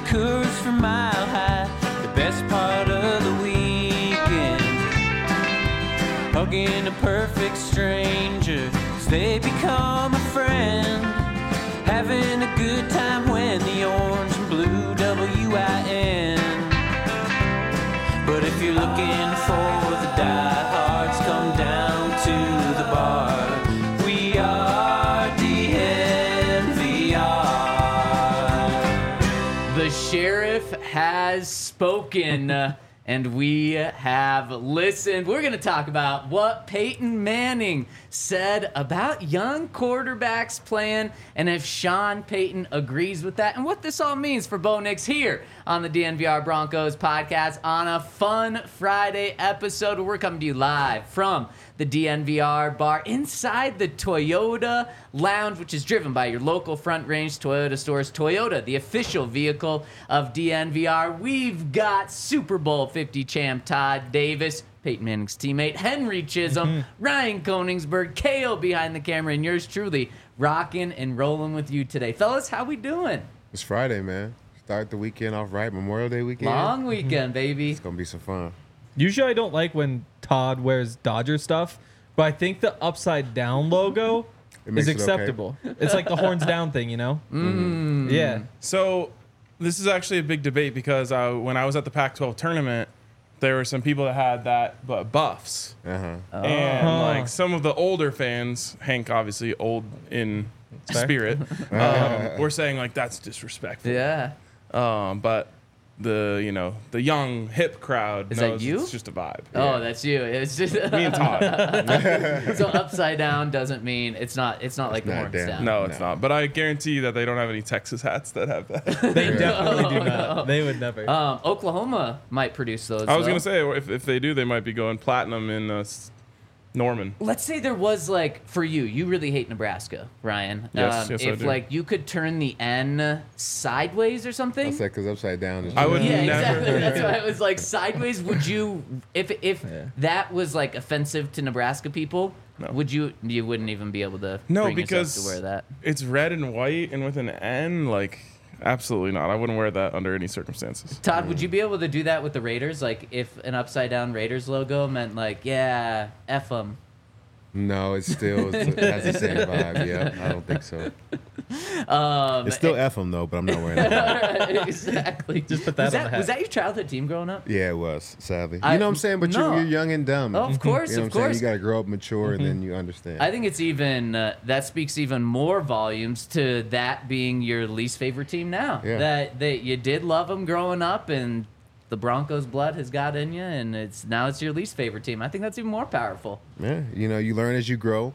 Coors from Mile High, the best part of the weekend. Hugging a perfect stranger as they become a friend. Having a good time when the orange and blue WIN. But if you're looking for the diehards, come down to the bar. We are DNVR. The sheriff has spoken. And we have listened. We're going to talk about what Peyton Manning said about young quarterbacks playing and if Sean Payton agrees with that and what this all means for Bo Nix here on the DNVR Broncos podcast on a fun Friday episode where we're coming to you live from the DNVR bar inside the Toyota Lounge, which is driven by your local Front Range Toyota stores. Toyota, the official vehicle of DNVR. We've got Super Bowl 50 champ Todd Davis, Peyton Manning's teammate, Henry Chisholm, Ryan Koenigsberg, KO behind the camera, and yours truly, rocking and rolling with you today. Fellas, how we doing? It's Friday, man. Start the weekend off right. Memorial Day weekend. Long weekend, baby. It's going to be some fun. Usually I don't like when Todd wears Dodger stuff, but I think the upside down logo is acceptable. It's like the horns down thing, you know? Yeah. So this is actually a big debate because when I was at the Pac-12 tournament, there were some people that had that but buffs. And like some of the older fans, Hank obviously old in spirit, were saying like that's disrespectful. Yeah. But the young hip crowd knows that you? It's just a vibe. Oh, that's you. It's just Me and Todd. So upside down doesn't mean it's not like the horns down. No, it's not. But I guarantee you that they don't have any Texas hats that have that. They definitely do not. They would never. Oklahoma might produce those. I was going to say, if they do, they might be going platinum in Norman. Let's say there was like, for you really hate Nebraska, Ryan. Yes, I if do. like you could turn the N sideways or something. That's like because upside down is I would Yeah, never. exactly. That's why it was like sideways. Would you, if that was like offensive to Nebraska people, No. would you wouldn't even be able to No, bring because yourself to wear that? It's red and white and with an N. Like, absolutely not. I wouldn't wear that under any circumstances. Todd, would you be able to do that with the Raiders? Like if an upside down Raiders logo meant like, yeah, F them. No, it still has the same vibe. Yeah, I don't think so. It's still F them though, but I'm not wearing that. Exactly. Just put that on the hat. Was that your childhood team growing up? Yeah, it was, sadly. You I- know what I'm saying? But no. you're young and dumb. Oh, of course, You know of what I'm saying? course. You got to grow up mature and then you understand. I think it's even that speaks even more volumes to that being your least favorite team now. Yeah. That you did love them growing up, and the Broncos blood has got in you, and it's your least favorite team. I think that's even more powerful. Yeah, you learn as you grow.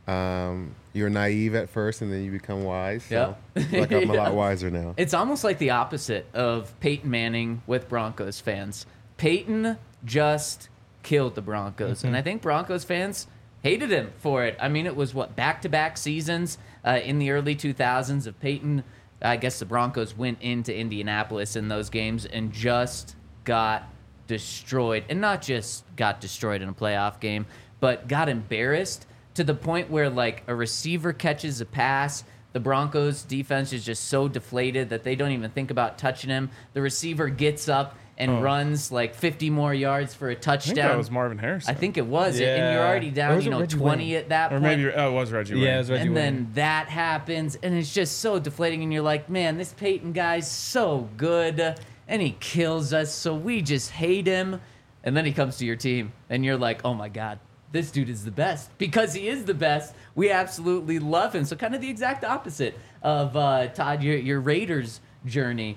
You're naive at first, and then you become wise. So I feel like I'm a lot wiser now. It's almost like the opposite of Peyton Manning with Broncos fans. Peyton just killed the Broncos, and I think Broncos fans hated him for it. I mean, it was back-to-back seasons in the early 2000s of Peyton. I guess the Broncos went into Indianapolis in those games and just got destroyed. And not just got destroyed in a playoff game, but got embarrassed to the point where, like, a receiver catches a pass. The Broncos defense is just so deflated that they don't even think about touching him. The receiver gets up and runs like 50 more yards for a touchdown. I think that was Marvin Harrison. I think it was. Yeah. And you're already Or down, was it Reggie 20 Wayne? at that Or point. maybe it was Reggie Wayne. Yeah, it was Reggie And Wayne. then that happens, and it's just so deflating, and you're like, man, this Peyton guy's so good, and he kills us, so we just hate him. And then he comes to your team, and you're like, oh my God, this dude is the best. Because he is the best, we absolutely love him. So kind of the exact opposite of, Todd, your Raiders journey.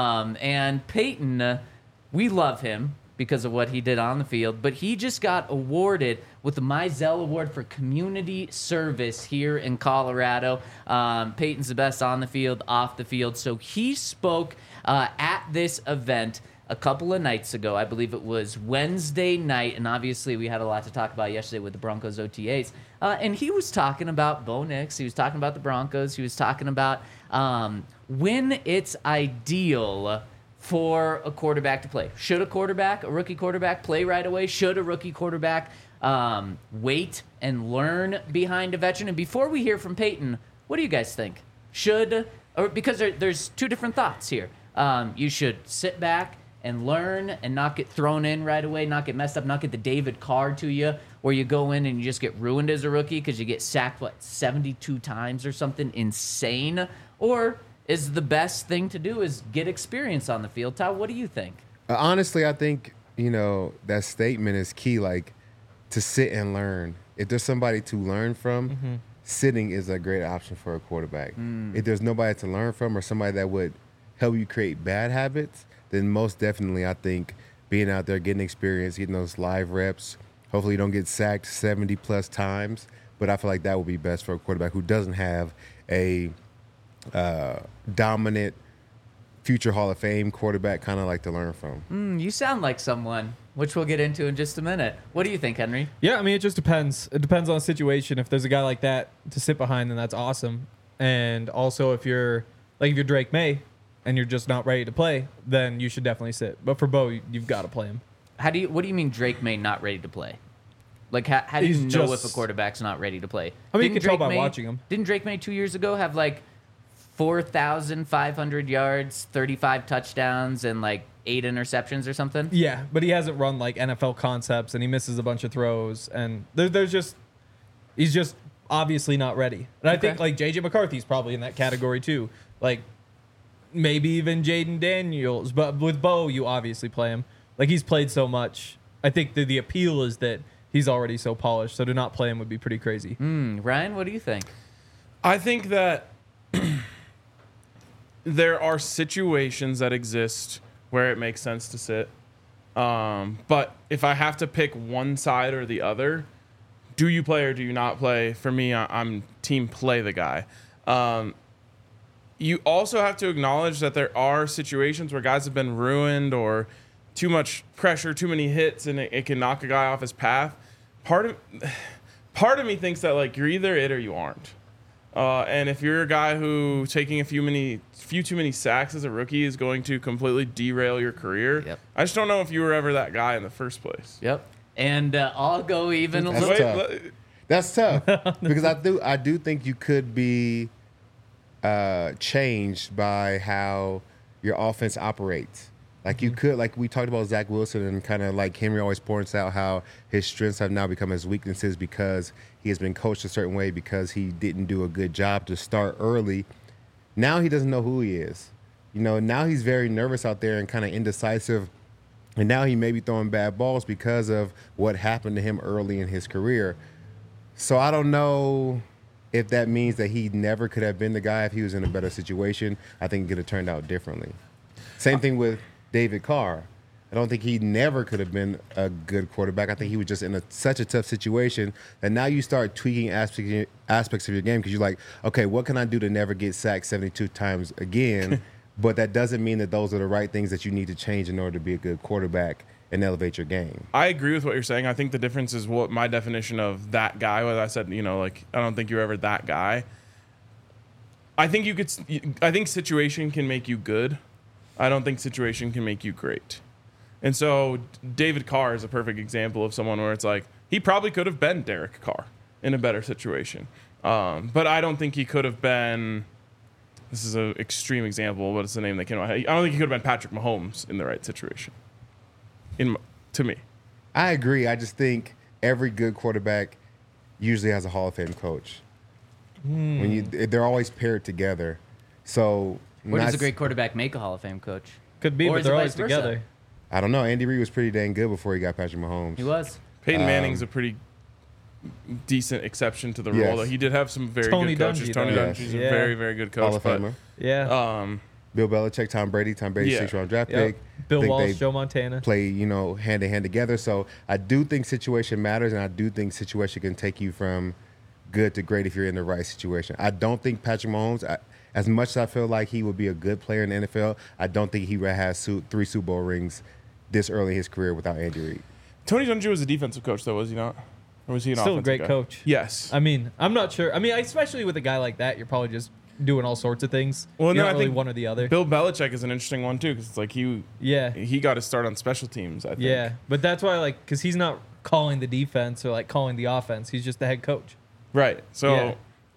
And Peyton, we love him because of what he did on the field, but he just got awarded with the Mizell Award for Community Service here in Colorado. Peyton's the best on the field, off the field. So he spoke at this event a couple of nights ago. I believe it was Wednesday night, and obviously we had a lot to talk about yesterday with the Broncos OTAs. And he was talking about Bo Nix. He was talking about the Broncos. He was talking about when it's ideal for a quarterback to play. Should a rookie quarterback, play right away? Should a rookie quarterback wait and learn behind a veteran? And before we hear from Peyton, what do you guys think? Should, or because there's two different thoughts here. You should sit back and learn and not get thrown in right away, not get messed up, not get the David Carr to you, where you go in and you just get ruined as a rookie because you get sacked, 72 times or something insane? Or is the best thing to do is get experience on the field? Todd, what do you think? Honestly, I think, that statement is key, like, to sit and learn. If there's somebody to learn from, sitting is a great option for a quarterback. If there's nobody to learn from or somebody that would help you create bad habits, then most definitely I think being out there, getting experience, getting those live reps, hopefully you don't get sacked 70-plus times, but I feel like that would be best for a quarterback who doesn't have a dominant future Hall of Fame quarterback kind of like to learn from. You sound like someone, which we'll get into in just a minute. What do you think, Henry? Yeah, I mean, it just depends. It depends on the situation. If there's a guy like that to sit behind, then that's awesome. And also, if you're Drake May and you're just not ready to play, then you should definitely sit. But for Bo, you've got to play him. What do you mean Drake May not ready to play? Like, how do you know if a quarterback's not ready to play? I mean, you can tell by watching him. Didn't Drake May 2 years ago have, 4,500 yards, 35 touchdowns, and, 8 interceptions or something? Yeah, but he hasn't run, NFL concepts, and he misses a bunch of throws. And he's just obviously not ready. And I think, J.J. McCarthy's probably in that category, too. Maybe even Jaden Daniels. But with Bo, you obviously play him. He's played so much. I think the appeal is that he's already so polished, so to not play him would be pretty crazy. Ryan, what do you think? I think that there are situations that exist where it makes sense to sit. But if I have to pick one side or the other, do you play or do you not play? For me, I'm team play the guy. You also have to acknowledge that there are situations where guys have been ruined or too much pressure, too many hits, and it can knock a guy off his path. Part of me thinks that you're either it or you aren't. And if you're a guy who taking a few too many sacks as a rookie is going to completely derail your career, I just don't know if you were ever that guy in the first place. Yep. And I'll go even a little. Tough. That's tough because I do think you could be changed by how your offense operates. You could, we talked about Zach Wilson and kind of Henry always points out how his strengths have now become his weaknesses because he has been coached a certain way because he didn't do a good job to start early. Now he doesn't know who he is. Now he's very nervous out there and kind of indecisive. And now he may be throwing bad balls because of what happened to him early in his career. So I don't know if that means that he never could have been the guy if he was in a better situation. I think it could have turned out differently. Same thing with David Carr. I don't think he never could have been a good quarterback. I think he was just in such a tough situation that now you start tweaking aspects of your game because you're like, okay, what can I do to never get sacked 72 times again? But that doesn't mean that those are the right things that you need to change in order to be a good quarterback and elevate your game. I agree with what you're saying. I think the difference is what my definition of that guy was. I said, I don't think you're ever that guy. I think situation can make you good. I don't think situation can make you great. And so David Carr is a perfect example of someone where it's he probably could have been Derek Carr in a better situation. But I don't think he could have been, this is an extreme example, but it's the name that came out. I don't think he could have been Patrick Mahomes in the right situation, to me. I agree. I just think every good quarterback usually has a Hall of Fame coach. They're always paired together. So where does a great quarterback make a Hall of Fame coach? Could be, but they're always together. I don't know. Andy Reid was pretty dang good before he got Patrick Mahomes. He was. Peyton Manning's a pretty decent exception to the role, though he did have some very good coaches. Tony Dungy's a very, very good coach. Hall of Famer. Yeah. Bill Belichick, Tom Brady. Tom Brady's 6th-round draft pick. Bill Walsh, Joe Montana. Play, hand in hand together. So I do think situation matters, and I do think situation can take you from good to great if you're in the right situation. I don't think Patrick Mahomes, as much as I feel like he would be a good player in the NFL, I don't think he would have 3 Super Bowl rings this early in his career without Andy Reid. Tony Dungy was a defensive coach, though, was he not? Or was he an Still offensive a great coach. Yes. I mean, I'm not sure. I mean, especially with a guy like that, you're probably just doing all sorts of things. Well, you're no, not I really think one or the other. Bill Belichick is an interesting one, too, because it's he got to start on special teams, I think. Yeah, but that's why, because he's not calling the defense or, calling the offense. He's just the head coach. Right. So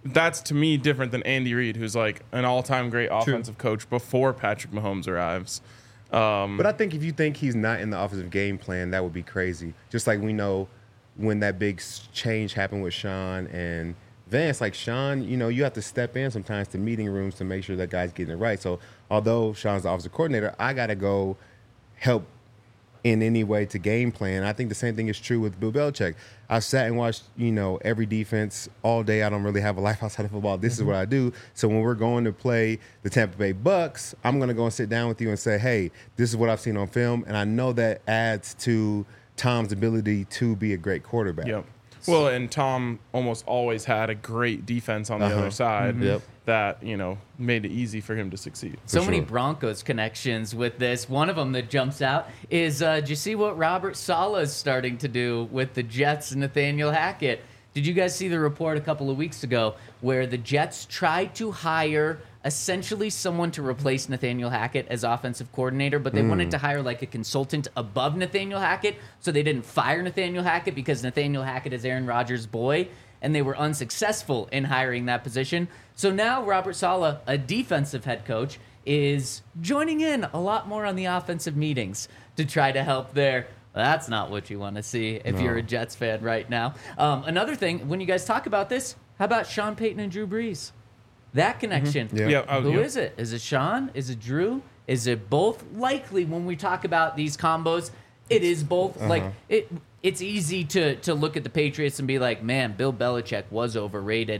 that's to me different than Andy Reid, who's like an all-time great offensive coach before Patrick Mahomes arrives. But I think if you think he's not in the offensive game plan, that would be crazy. Just like we know when that big change happened with Sean and Vance, like Sean, you have to step in sometimes to meeting rooms to make sure that guy's getting it right. So although Sean's the offensive coordinator, I got to go help in any way to game plan. I think the same thing is true with Bill Belichick. I've sat and watched, every defense all day. I don't really have a life outside of football. This is what I do. So when we're going to play the Tampa Bay Bucks, I'm going to go and sit down with you and say, hey, this is what I've seen on film. And I know that adds to Tom's ability to be a great quarterback. Yep. Well, and Tom almost always had a great defense on the other side that, made it easy for him to succeed. So many Broncos connections with this. One of them that jumps out is, did you see what Robert Saleh is starting to do with the Jets and Nathaniel Hackett? Did you guys see the report a couple of weeks ago where the Jets tried to hire essentially someone to replace Nathaniel Hackett as offensive coordinator, but they wanted to hire like a consultant above Nathaniel Hackett, so they didn't fire Nathaniel Hackett because Nathaniel Hackett is Aaron Rodgers' boy, and they were unsuccessful in hiring that position. So now Robert Saleh, a defensive head coach, is joining in a lot more on the offensive meetings to try to help there. That's not what you want to see if you're a Jets fan right now. Another thing, when you guys talk about this, how about Sean Payton and Drew Brees? That connection. Who is it? Is it Sean? Is it Drew? Is it both? Likely, when we talk about these combos, it is both. Like it's easy to look at the Patriots and be like, man, Bill Belichick was overrated.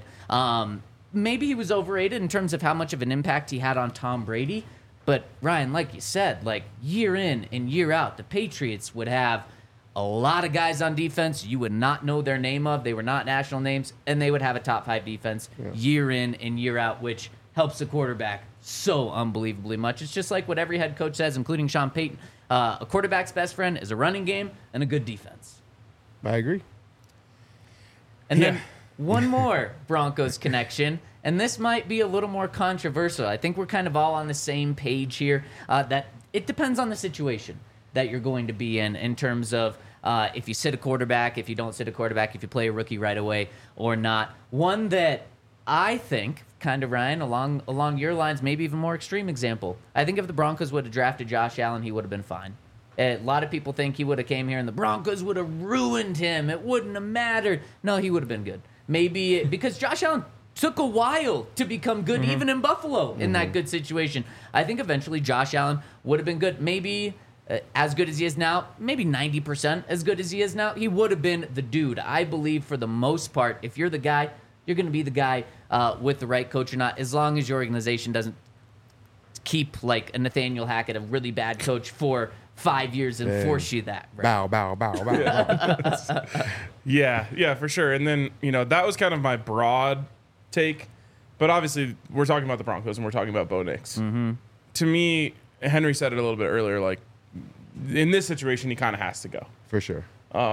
Maybe he was overrated in terms of how much of an impact he had on Tom Brady. But Ryan, like you said, like year in and year out, the Patriots would have a lot of guys on defense you would not know their name of. They were not national names, and they would have a top 5 defense year in and year out, which helps the quarterback so unbelievably much. It's just like what every head coach says, including Sean Payton. A quarterback's best friend is a running game and a good defense. I agree. And then one more Broncos connection, and this might be a little more controversial. I think we're kind of all on the same page here. That it depends on the situation that you're going to be in terms of if you sit a quarterback, if you don't sit a quarterback, if you play a rookie right away or not. One that I think, kind of, Ryan, along your lines, maybe even more extreme example. I think if the Broncos would have drafted Josh Allen, he would have been fine. A lot of people think he would have came here and the Broncos would have ruined him. It wouldn't have mattered. No, he would have been good. Maybe because Josh Allen took a while to become good, even in Buffalo, in that good situation. I think eventually Josh Allen would have been good. Maybe as good as he is now, maybe 90% as good as he is now. He would have been the dude. I believe for the most part, if you're the guy, you're going to be the guy with the right coach or not, as long as your organization doesn't keep like a Nathaniel Hackett, a really bad coach, for 5 years and force you that. Right? Bow, bow, bow, bow. Yeah, for sure. And then, that was kind of my broad take. But obviously, we're talking about the Broncos and we're talking about Bo Nix. To me, Henry said it a little bit earlier, like, in this situation, he kind of has to go. For sure.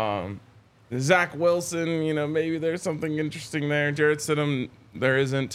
Zach Wilson, maybe there's something interesting there. Jarrett Stidham, there isn't.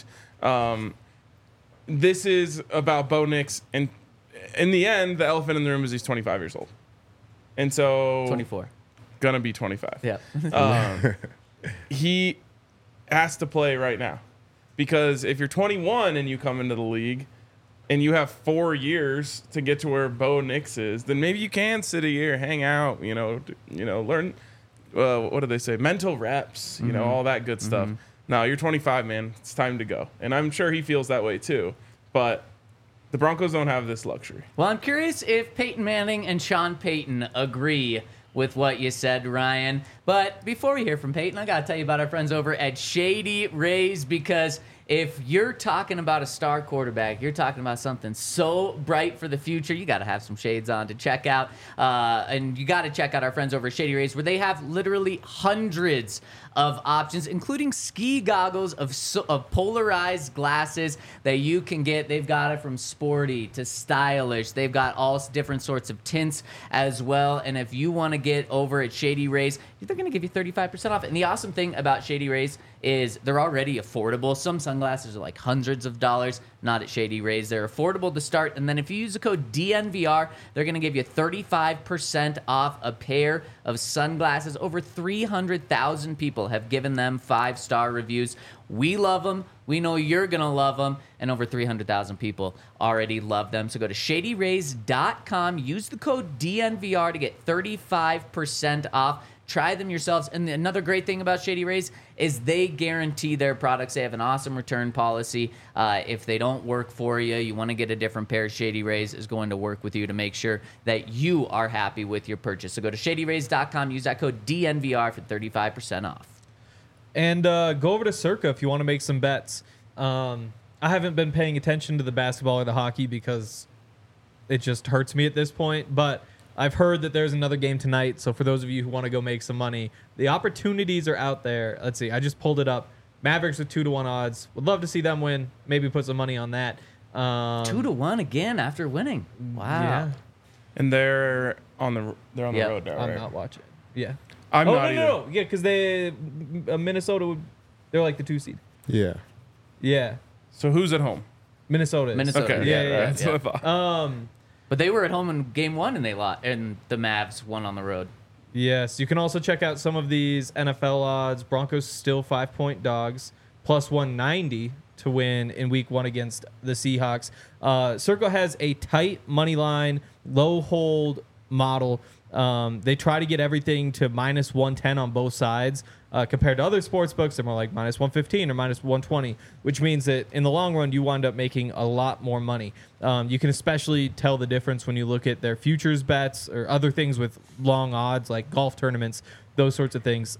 This is about Bo Nix, and in the end, the elephant in the room is he's 25 years old. And so... 24. Gonna be 25. Yeah. He has to play right now. Because if you're 21 and you come into the league and you have 4 years to get to where Bo Nix is, then maybe you can sit a year, hang out, learn... what do they say? Mental reps, all that good stuff. No, you're 25, man. It's time to go. And I'm sure he feels that way too. But the Broncos don't have this luxury. Well, I'm curious if Peyton Manning and Sean Payton agree with what you said, Ryan. But before we hear from Peyton, I got to tell you about our friends over at Shady Rays, because if you're talking about a star quarterback, you're talking about something so bright for the future, you got to have some shades on to check out. And you got to check out our friends over at Shady Rays, where they have literally hundreds of options, including ski goggles of polarized glasses that you can get. They've got it from sporty to stylish. They've got all different sorts of tints as well. And if you want to get over at Shady Rays, they're going to give you 35% off. And the awesome thing about Shady Rays is they're already affordable. Some sunglasses are like hundreds of dollars. Not at Shady Rays. They're affordable to start. And then if you use the code DNVR, they're going to give you 35% off a pair of sunglasses. Over 300,000 people have given them 5-star reviews. We love them. We know you're going to love them. And over 300,000 people already love them. So go to shadyrays.com. Use the code DNVR to get 35% off. Try them yourselves. And another great thing about Shady Rays is they guarantee their products. They have an awesome return policy. If they don't work for you, you want to get a different pair, Shady Rays is going to work with you to make sure that you are happy with your purchase. So go to shadyrays.com. Use that code DNVR for 35% off. And go over to Circa if you want to make some bets. I haven't been paying attention to the basketball or the hockey because it just hurts me at this point. But I've heard that there's another game tonight. So for those of you who want to go make some money, the opportunities are out there. Let's see. I just pulled it up. Mavericks with 2-1 odds. Would love to see them win. Maybe put some money on that. 2-1 again after winning. Wow. Yeah. And they're on the road now, I'm right? not watching. Yeah. I'm not either. No. Yeah, because Minnesota, they're like the 2 seed. Yeah. Yeah. So who's at home? Minnesota. Minnesota. Okay, Yeah. That's what I thought. But they were at home in game 1 and they lost, and the Mavs won on the road. Yes, you can also check out some of these NFL odds. Broncos still 5-point dogs, plus 190 to win in week 1 against the Seahawks. Circle has a tight money line, low hold model. They try to get everything to minus 110 on both sides. Compared to other sports books, they're more like minus 115 or minus 120, which means that in the long run, you wind up making a lot more money. You can especially tell the difference when you look at their futures bets or other things with long odds like golf tournaments, those sorts of things.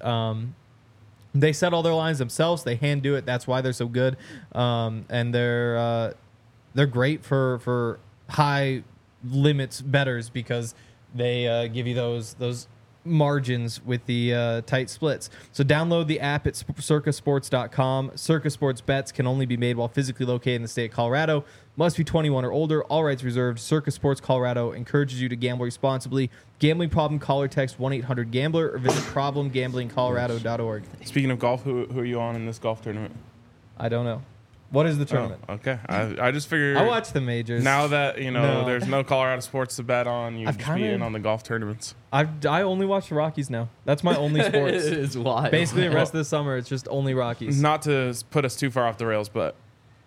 They set all their lines themselves. They hand do it. That's why they're so good. And they're great for high limits bettors because they give you those margins with the tight splits. So download the app at circasports.com. Circa Sports bets can only be made while physically located in the state of Colorado. Must be 21 or older. All rights reserved. Circa Sports Colorado encourages you to gamble responsibly. Gambling problem, call or text 1-800-GAMBLER or visit problemgamblingcolorado.org. Speaking of golf, who are you on in this golf tournament? I don't know. What is the tournament? Oh, okay. I just figured. I watch the majors. Now that, No. there's no Colorado sports to bet on, you I've just be kinda- in on the golf tournaments. I only watch the Rockies now. That's my only It sports. is wild. Basically, the rest of the summer, it's just only Rockies. Not to put us too far off the rails, but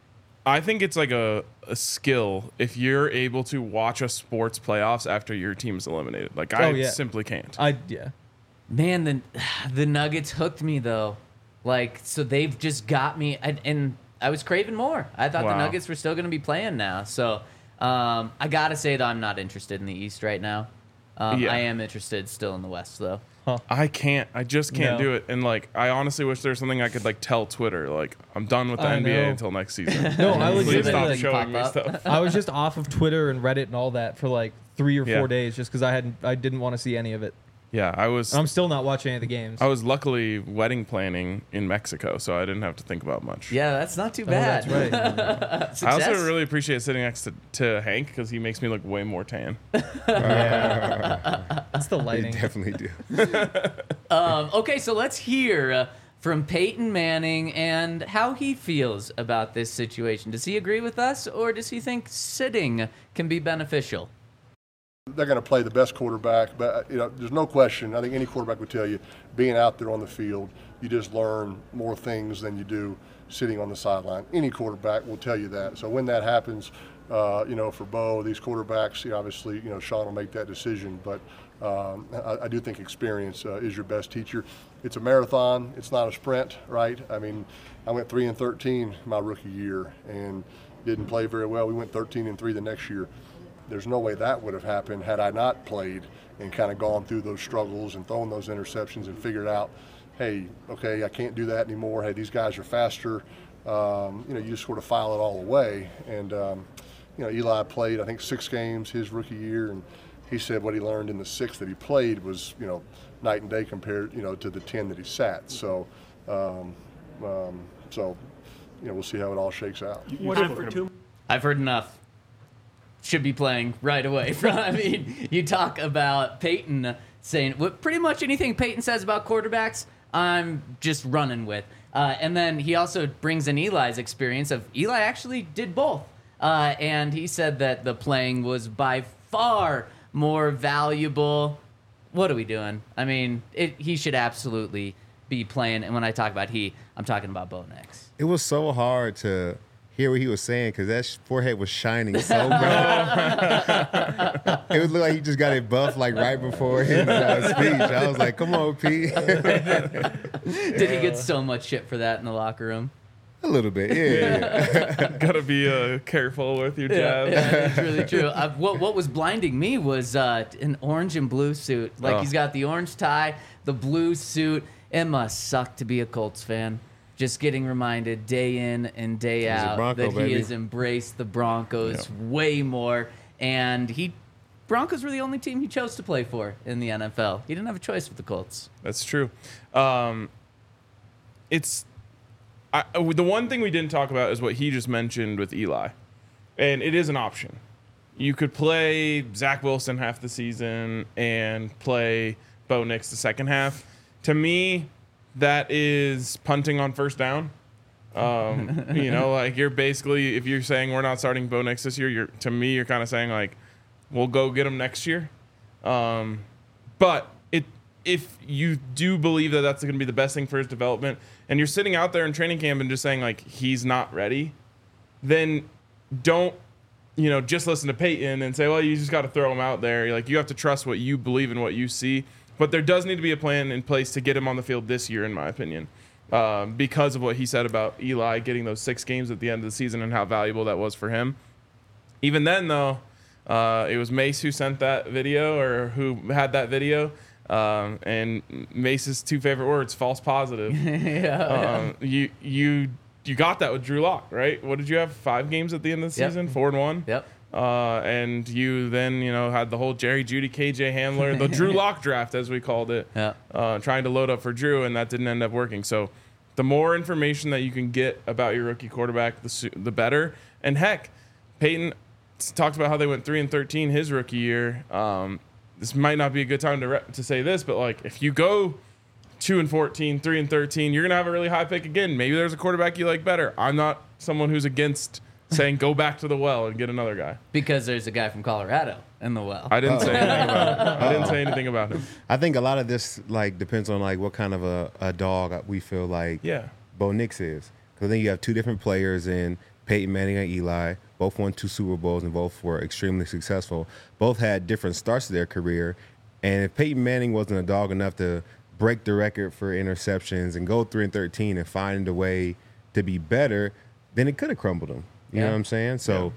I think it's like a skill if you're able to watch a sports playoffs after your team is eliminated. Like, I simply can't. Yeah. Man, the Nuggets hooked me, though. Like, so they've just got me, and I was craving more. I thought the Nuggets were still going to be playing now. So I got to say, though, I'm not interested in the East right now. I am interested still in the West, though. I can't. I just can't No. do it. And, like, I honestly wish there was something I could, like, tell Twitter. Like, I'm done with the I NBA know. until next season. No, I Please legitimately stop like, showing me pop up. stuff. I was just off of Twitter and Reddit and all that for like 3 or 4 Yeah. days just because I didn't want to see any of it. Yeah, I'm still not watching any of the games. I was luckily wedding planning in Mexico, so I didn't have to think about much. Yeah, that's not too Oh, bad. that's right. I Success. also really appreciate sitting next to Hank because he makes me look way more tan. It's the They lighting. definitely do. Okay, so let's hear from Peyton Manning and how he feels about this situation. Does he agree with us, or does he think sitting can be beneficial? They're going to play the best quarterback, but there's no question. I think any quarterback would tell you, being out there on the field, you just learn more things than you do sitting on the sideline. Any quarterback will tell you that. So when that happens, for Bo, these quarterbacks, obviously, Sean will make that decision. But I do think experience is your best teacher. It's a marathon. It's not a sprint, right? I mean, I went 3-13 my rookie year and didn't play very well. We went 13-3 the next year. There's no way that would have happened had I not played and kind of gone through those struggles and thrown those interceptions and figured out, hey, okay, I can't do that anymore. Hey, these guys are faster. You just sort of file it all away. And, Eli played, I think, 6 games his rookie year, and he said what he learned in the 6 that he played was, night and day compared, to the 10 that he sat. So, we'll see how it all shakes out. I've heard enough. Should be playing right away. You talk about Peyton saying pretty much anything Peyton says about quarterbacks, I'm just running with. And then he also brings in Eli's experience of Eli actually did both. And he said that the playing was by far more valuable. What are we doing? I mean, he should absolutely be playing. And when I talk about I'm talking about Bo Nix. It was so hard to hear what he was saying because that forehead was shining so bright. It would look like he just got it buffed like right before his speech. I was like, come on, Pete. Did he get so much shit for that in the locker room? A little bit, yeah. Gotta be careful with your jab. Yeah, it's really true. What was blinding me was an orange and blue suit. Like he's got the orange tie, the blue suit. It must suck to be a Colts fan. Just getting reminded day in and day out that he has embraced the Broncos way more. And Broncos were the only team he chose to play for in the NFL. He didn't have a choice with the Colts. That's true. The one thing we didn't talk about is what he just mentioned with Eli. And it is an option. You could play Zach Wilson half the season and play Bo Nix the second half. To me, that is punting on first down. Like you're basically, if you're saying we're not starting Bo Nix this year, to me, you're kind of saying like, we'll go get him next year. But if you do believe that that's going to be the best thing for his development, and you're sitting out there in training camp and just saying like he's not ready, then don't just listen to Peyton and say, well, you just got to throw him out there. You have to trust what you believe in, what you see. But there does need to be a plan in place to get him on the field this year, in my opinion, because of what he said about Eli getting those 6 games at the end of the season and how valuable that was for him. Even then, though, it was Mace who sent that video or who had that video. And Mace's 2 favorite words, false positive. You got that with Drew Lock, right? What did you have? 5 games at the end of the season? 4-1? Yep. And you then, had the whole Jerry Jeudy, KJ Hamler, the Drew Lock draft, as we called it, trying to load up for Drew, and that didn't end up working. So the more information that you can get about your rookie quarterback, the better. And heck, Peyton talked about how they went 3-13 his rookie year. This might not be a good time to say this, but like if you go 2-14, 3-13, you're gonna have a really high pick again. Maybe there's a quarterback you like better. I'm not someone who's against saying go back to the well and get another guy. Because there's a guy from Colorado in the well. I didn't say anything about him. I didn't say anything about him. I think a lot of this depends on what kind of a dog we feel like Bo Nix is. Because I think you have 2 different players in Peyton Manning and Eli. Both won 2 Super Bowls and both were extremely successful. Both had different starts to their career. And if Peyton Manning wasn't a dog enough to break the record for interceptions and go 3-13 and find a way to be better, then it could have crumbled him. You know what I'm saying? So,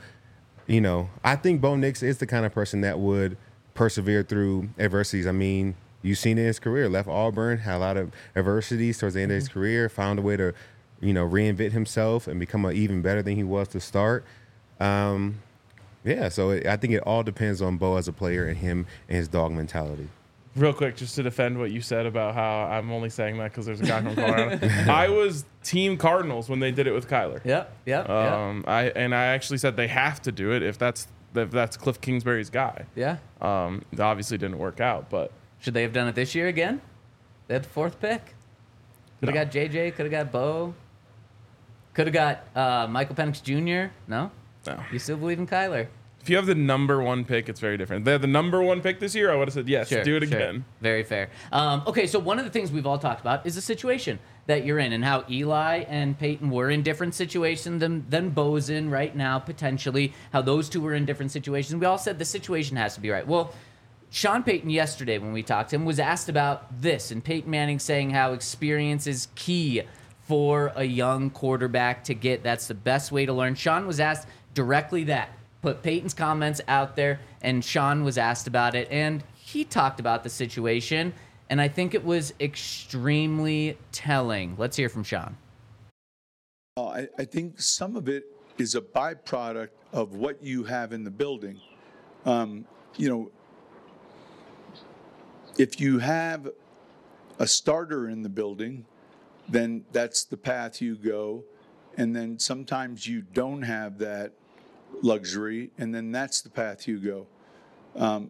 I think Bo Nix is the kind of person that would persevere through adversities. I mean, you've seen it in his career. Left Auburn, had a lot of adversities towards the end of his career, found a way to, reinvent himself and become even better than he was to start. So I think it all depends on Bo as a player and him and his dog mentality. Real quick, just to defend what you said about how I'm only saying that because there's a guy from Colorado. I was team Cardinals when they did it with Kyler. Yep. I actually said they have to do it if that's Cliff Kingsbury's guy. Yeah. It obviously didn't work out, but should they have done it this year again? They had the 4th pick. Could have got JJ. Could have got Bo. Could have got Michael Penix Jr. No. You still believe in Kyler? If you have the number 1 pick, it's very different. They had the number 1 pick this year, I would have said, yes, do it again. Very fair. Okay, so one of the things we've all talked about is the situation that you're in and how Eli and Peyton were in different situations than Bo's in right now, potentially, how those 2 were in different situations. We all said the situation has to be right. Well, Sean Payton yesterday when we talked to him was asked about this, and Peyton Manning saying how experience is key for a young quarterback to get. That's the best way to learn. Sean was asked directly that. Put Peyton's comments out there, and Sean was asked about it, and he talked about the situation, and I think it was extremely telling. Let's hear from Sean. I think some of it is a byproduct of what you have in the building. If you have a starter in the building, then that's the path you go, and then sometimes you don't have that luxury, and then that's the path you go.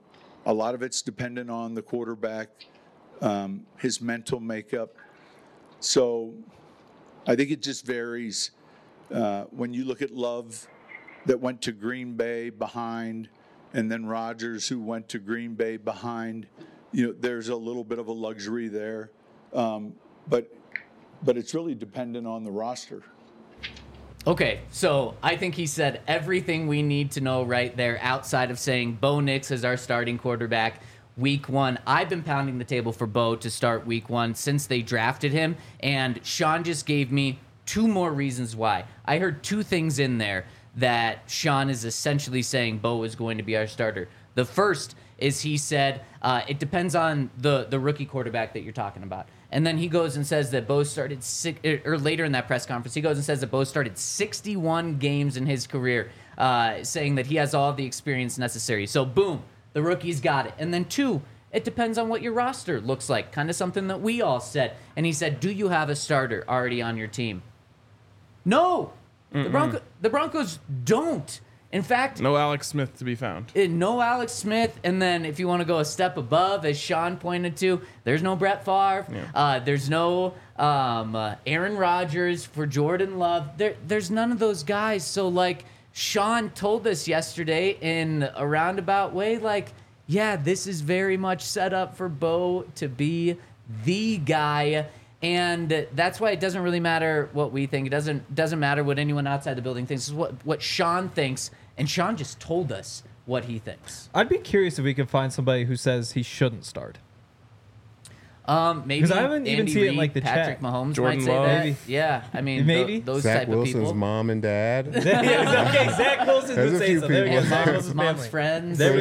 A lot of it's dependent on the quarterback, his mental makeup. So I think it just varies. When you look at Love that went to Green Bay behind, and then Rodgers who went to Green Bay behind, there's a little bit of a luxury there. But it's really dependent on the roster. Okay, so I think he said everything we need to know right there outside of saying Bo Nix is our starting quarterback week 1. I've been pounding the table for Bo to start week 1 since they drafted him, and Sean just gave me 2 more reasons why. I heard 2 things in there that Sean is essentially saying Bo is going to be our starter. The first is he said it depends on the rookie quarterback that you're talking about. And then he goes and says that Bo started or later in that press conference, he goes and says that Bo started 61 games in his career, saying that he has all the experience necessary. So boom, the rookie's got it. And then 2, it depends on what your roster looks like, kind of something that we all said. And he said, do you have a starter already on your team? No, the Broncos don't. In fact, no Alex Smith to be found. No Alex Smith. And then if you want to go a step above, as Sean pointed to, there's no Brett Favre. Yeah. There's no Aaron Rodgers for Jordan Love. There's none of those guys. So, like, Sean told us yesterday in a roundabout way, like, yeah, this is very much set up for Bo to be the guy. And that's why it doesn't really matter what we think. It doesn't matter what anyone outside the building thinks. It's what Sean thinks. And Sean just told us what he thinks. I'd be curious if we could find somebody who says he shouldn't start. Maybe because I haven't even Andy seen it Reid, in like the Patrick chat. Mahomes Jordan might say Love. that. Maybe. Yeah, I mean, Maybe. those Zach type of Wilson's people. mom and dad. Okay, Zach Wilson There's would a say few so. There we go. people. Zach Wilson's Mom's family. friends. There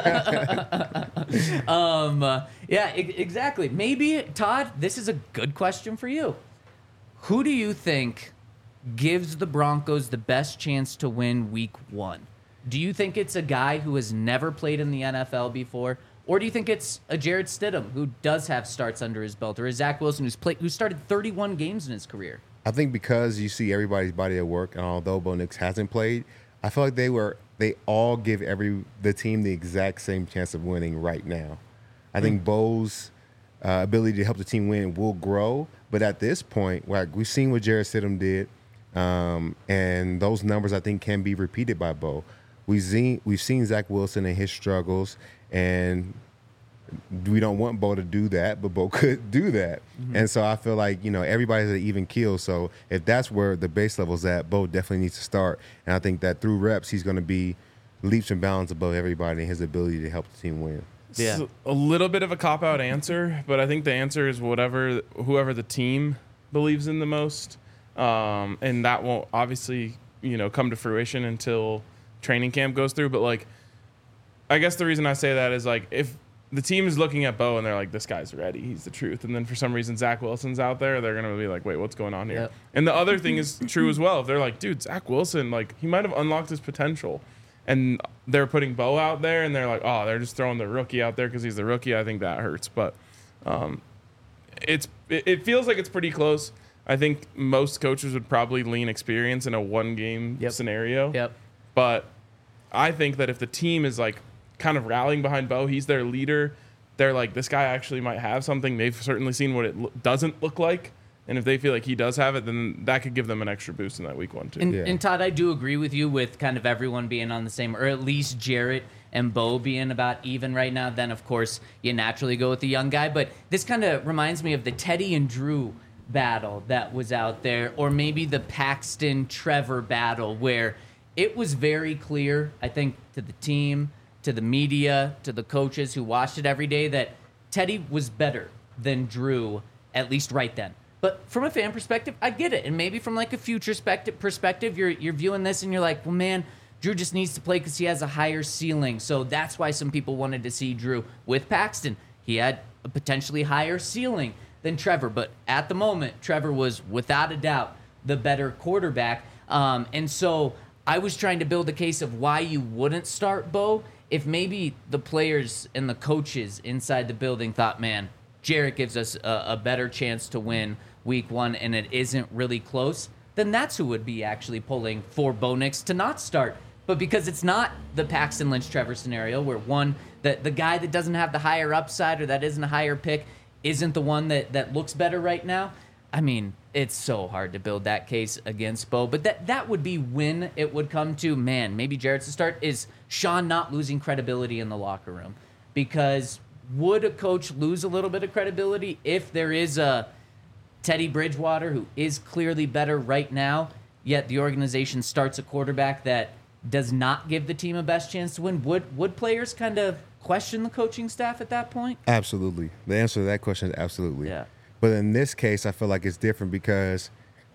we go. Yeah, exactly. Maybe, Todd, this is a good question for you. Who do you think gives the Broncos the best chance to win week 1? Do you think it's a guy who has never played in the NFL before? Or do you think it's a Jarrett Stidham who does have starts under his belt? Or a Zach Wilson who started 31 games in his career? I think because you see everybody's body at work, and although Bo Nix hasn't played, I feel like they all give the team the exact same chance of winning right now. I think Bo's ability to help the team win will grow, but at this point, like we've seen what Jarrett Stidham did, and those numbers I think can be repeated by Bo. We've seen Zach Wilson and his struggles, and we don't want Bo to do that, but Bo could do that. Mm-hmm. And so I feel like, everybody's at an even keel. So if that's where the base level's at, Bo definitely needs to start. And I think that through reps, he's going to be leaps and bounds above everybody in his ability to help the team win. Yeah. It's a little bit of a cop-out answer, but I think the answer is whoever the team believes in the most. And that won't obviously, come to fruition until training camp goes through. But, like, I guess the reason I say that is, like, if the team is looking at Bo and they're like, this guy's ready, he's the truth. And then for some reason Zach Wilson's out there, they're going to be like, wait, what's going on here? Yep. And the other thing is true as well. If they're like, dude, Zach Wilson, like, he might have unlocked his potential. And they're putting Bo out there and they're like, oh, they're just throwing the rookie out there because he's the rookie. I think that hurts. But it feels like it's pretty close. I think most coaches would probably lean experience in a one-game scenario. Yep. But I think that if the team is like kind of rallying behind Bo, he's their leader. They're like, this guy actually might have something. They've certainly seen what it doesn't look like. And if they feel like he does have it, then that could give them an extra boost in that week 1 too. And Todd, I do agree with you with kind of everyone being on the same, or at least Jarrett and Bo being about even right now. Then, of course, you naturally go with the young guy. But this kind of reminds me of the Teddy and Drew battle that was out there, or maybe the Paxton-Trevor battle, where it was very clear, I think, to the team, to the media, to the coaches who watched it every day, that Teddy was better than Drew, at least right then. But from a fan perspective, I get it. And maybe from like a future perspective, you're viewing this and you're like, well, man, Drew just needs to play because he has a higher ceiling. So that's why some people wanted to see Drew with Paxton. He had a potentially higher ceiling than Trevor. But at the moment, Trevor was without a doubt the better quarterback. And so I was trying to build a case of why you wouldn't start Bo if maybe the players and the coaches inside the building thought, man, Jarrett gives us a better chance to win week 1 and it isn't really close, then that's who would be actually pulling for Bo Nix to not start. But because it's not the Paxton Lynch-Trevor scenario where one, that the guy that doesn't have the higher upside or that isn't a higher pick isn't the one that looks better right now. I mean, it's so hard to build that case against Bo, but that would be when it would come to, man, maybe Jarrett's to start, is Sean not losing credibility in the locker room. Because would a coach lose a little bit of credibility if there is a Teddy Bridgewater who is clearly better right now, yet the organization starts a quarterback that does not give the team a best chance to win? Would players kind of question the coaching staff at that point? Absolutely. The answer to that question is absolutely. Yeah. But in this case, I feel like it's different because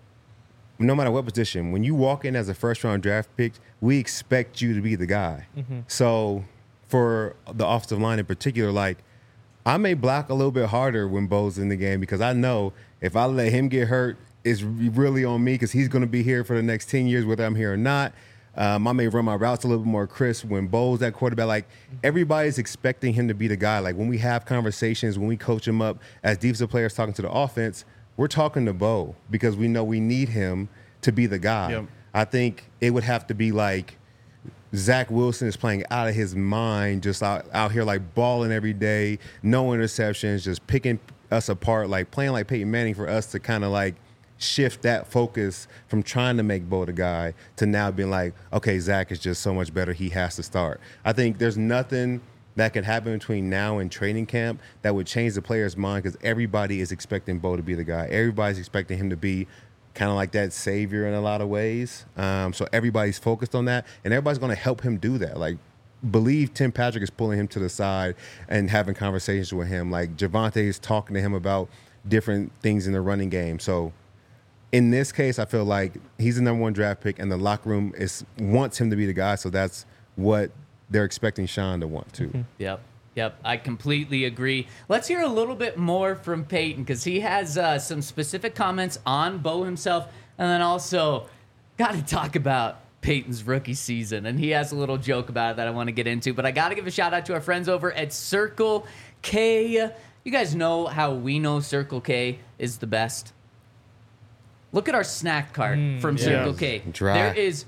no matter what position, when you walk in as a first-round draft pick, we expect you to be the guy. So for the offensive line in particular, like, I may block a little bit harder when Bo's in the game because I know if I let him get hurt, it's really on me because he's going to be here for the next 10 years, whether I'm here or not. I may run my routes a little bit more crisp when Bo's at quarterback. Like, everybody's expecting him to be the guy. Like, when we have conversations, when we coach him up as defensive players talking to the offense, we're talking to Bo because we know we need him to be the guy. Yep. I think it would have to be like Zach Wilson is playing out of his mind, just out here like balling every day, no interceptions, just picking us apart, like playing like Peyton Manning for us to kind of like shift that focus from trying to make Bo the guy to now being like, okay, Zach is just so much better, he has to start. I think there's nothing that could happen between now and training camp that would change the player's mind because everybody is expecting Bo to be the guy. Everybody's expecting him to be kind of like that savior in a lot of ways. So everybody's focused on that, and everybody's going to help him do that. Like, believe Tim Patrick is pulling him to the side and having conversations with him. Like, Javonte is talking to him about different things in the running game. So in this case, I feel like he's the number one draft pick, and the locker room wants him to be the guy. So that's what they're expecting Sean to want to. Yep, I completely agree. Let's hear a little bit more from Peyton because he has some specific comments on Bo himself, and then also got to talk about Peyton's rookie season, and he has a little joke about it that I want to get into, but I got to give a shout out to our friends over at Circle K. You guys know how we know Circle K is the best. Look at our snack cart from Circle K. Dry.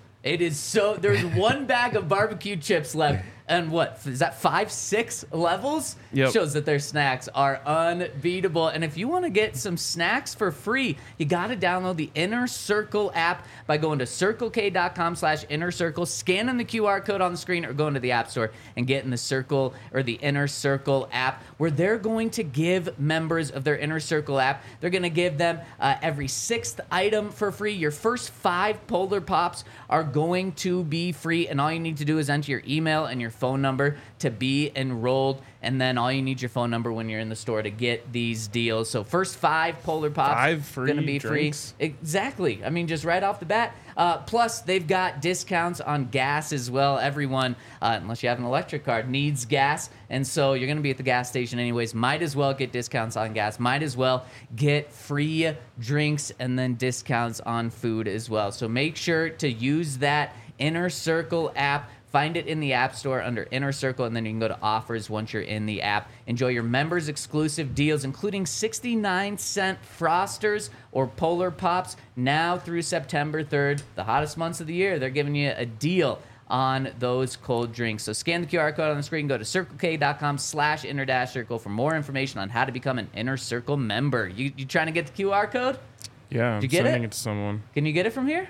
There's one bag of barbecue chips left. And what is that, 5-6 levels? Yep. Shows that their snacks are unbeatable. And if you want to get some snacks for free, you got to download the Inner Circle app by going to circlek.com/innercircle, scanning the QR code on the screen, or going to the App Store and getting the Circle or the Inner Circle app, where they're going to give members of their Inner Circle app, they're going to give them every 6th item for free. Your first 5 Polar Pops are going to be free, and all you need to do is enter your email and your phone number to be enrolled, and then all you need your phone number when you're in the store to get these deals. So first 5 Polar Pops going to be drinks. free. Exactly. I mean, just right off the bat. Plus, they've got discounts on gas as well. Everyone, unless you have an electric car, needs gas, and so you're going to be at the gas station anyways. Might as well get discounts on gas. Might as well get free drinks and then discounts on food as well. So make sure to use that Inner Circle app. Find it in the App Store under Inner Circle, and then you can go to offers once you're in the app. Enjoy your members' exclusive deals, including 69-cent Frosters or Polar Pops now through September 3rd, the hottest months of the year. They're giving you a deal on those cold drinks. So scan the QR code on the screen, go to circlek.com/inner-circle for more information on how to become an Inner Circle member. You trying to get the QR code? Yeah, I'm Did you get sending it? it to someone. Can you get it from here?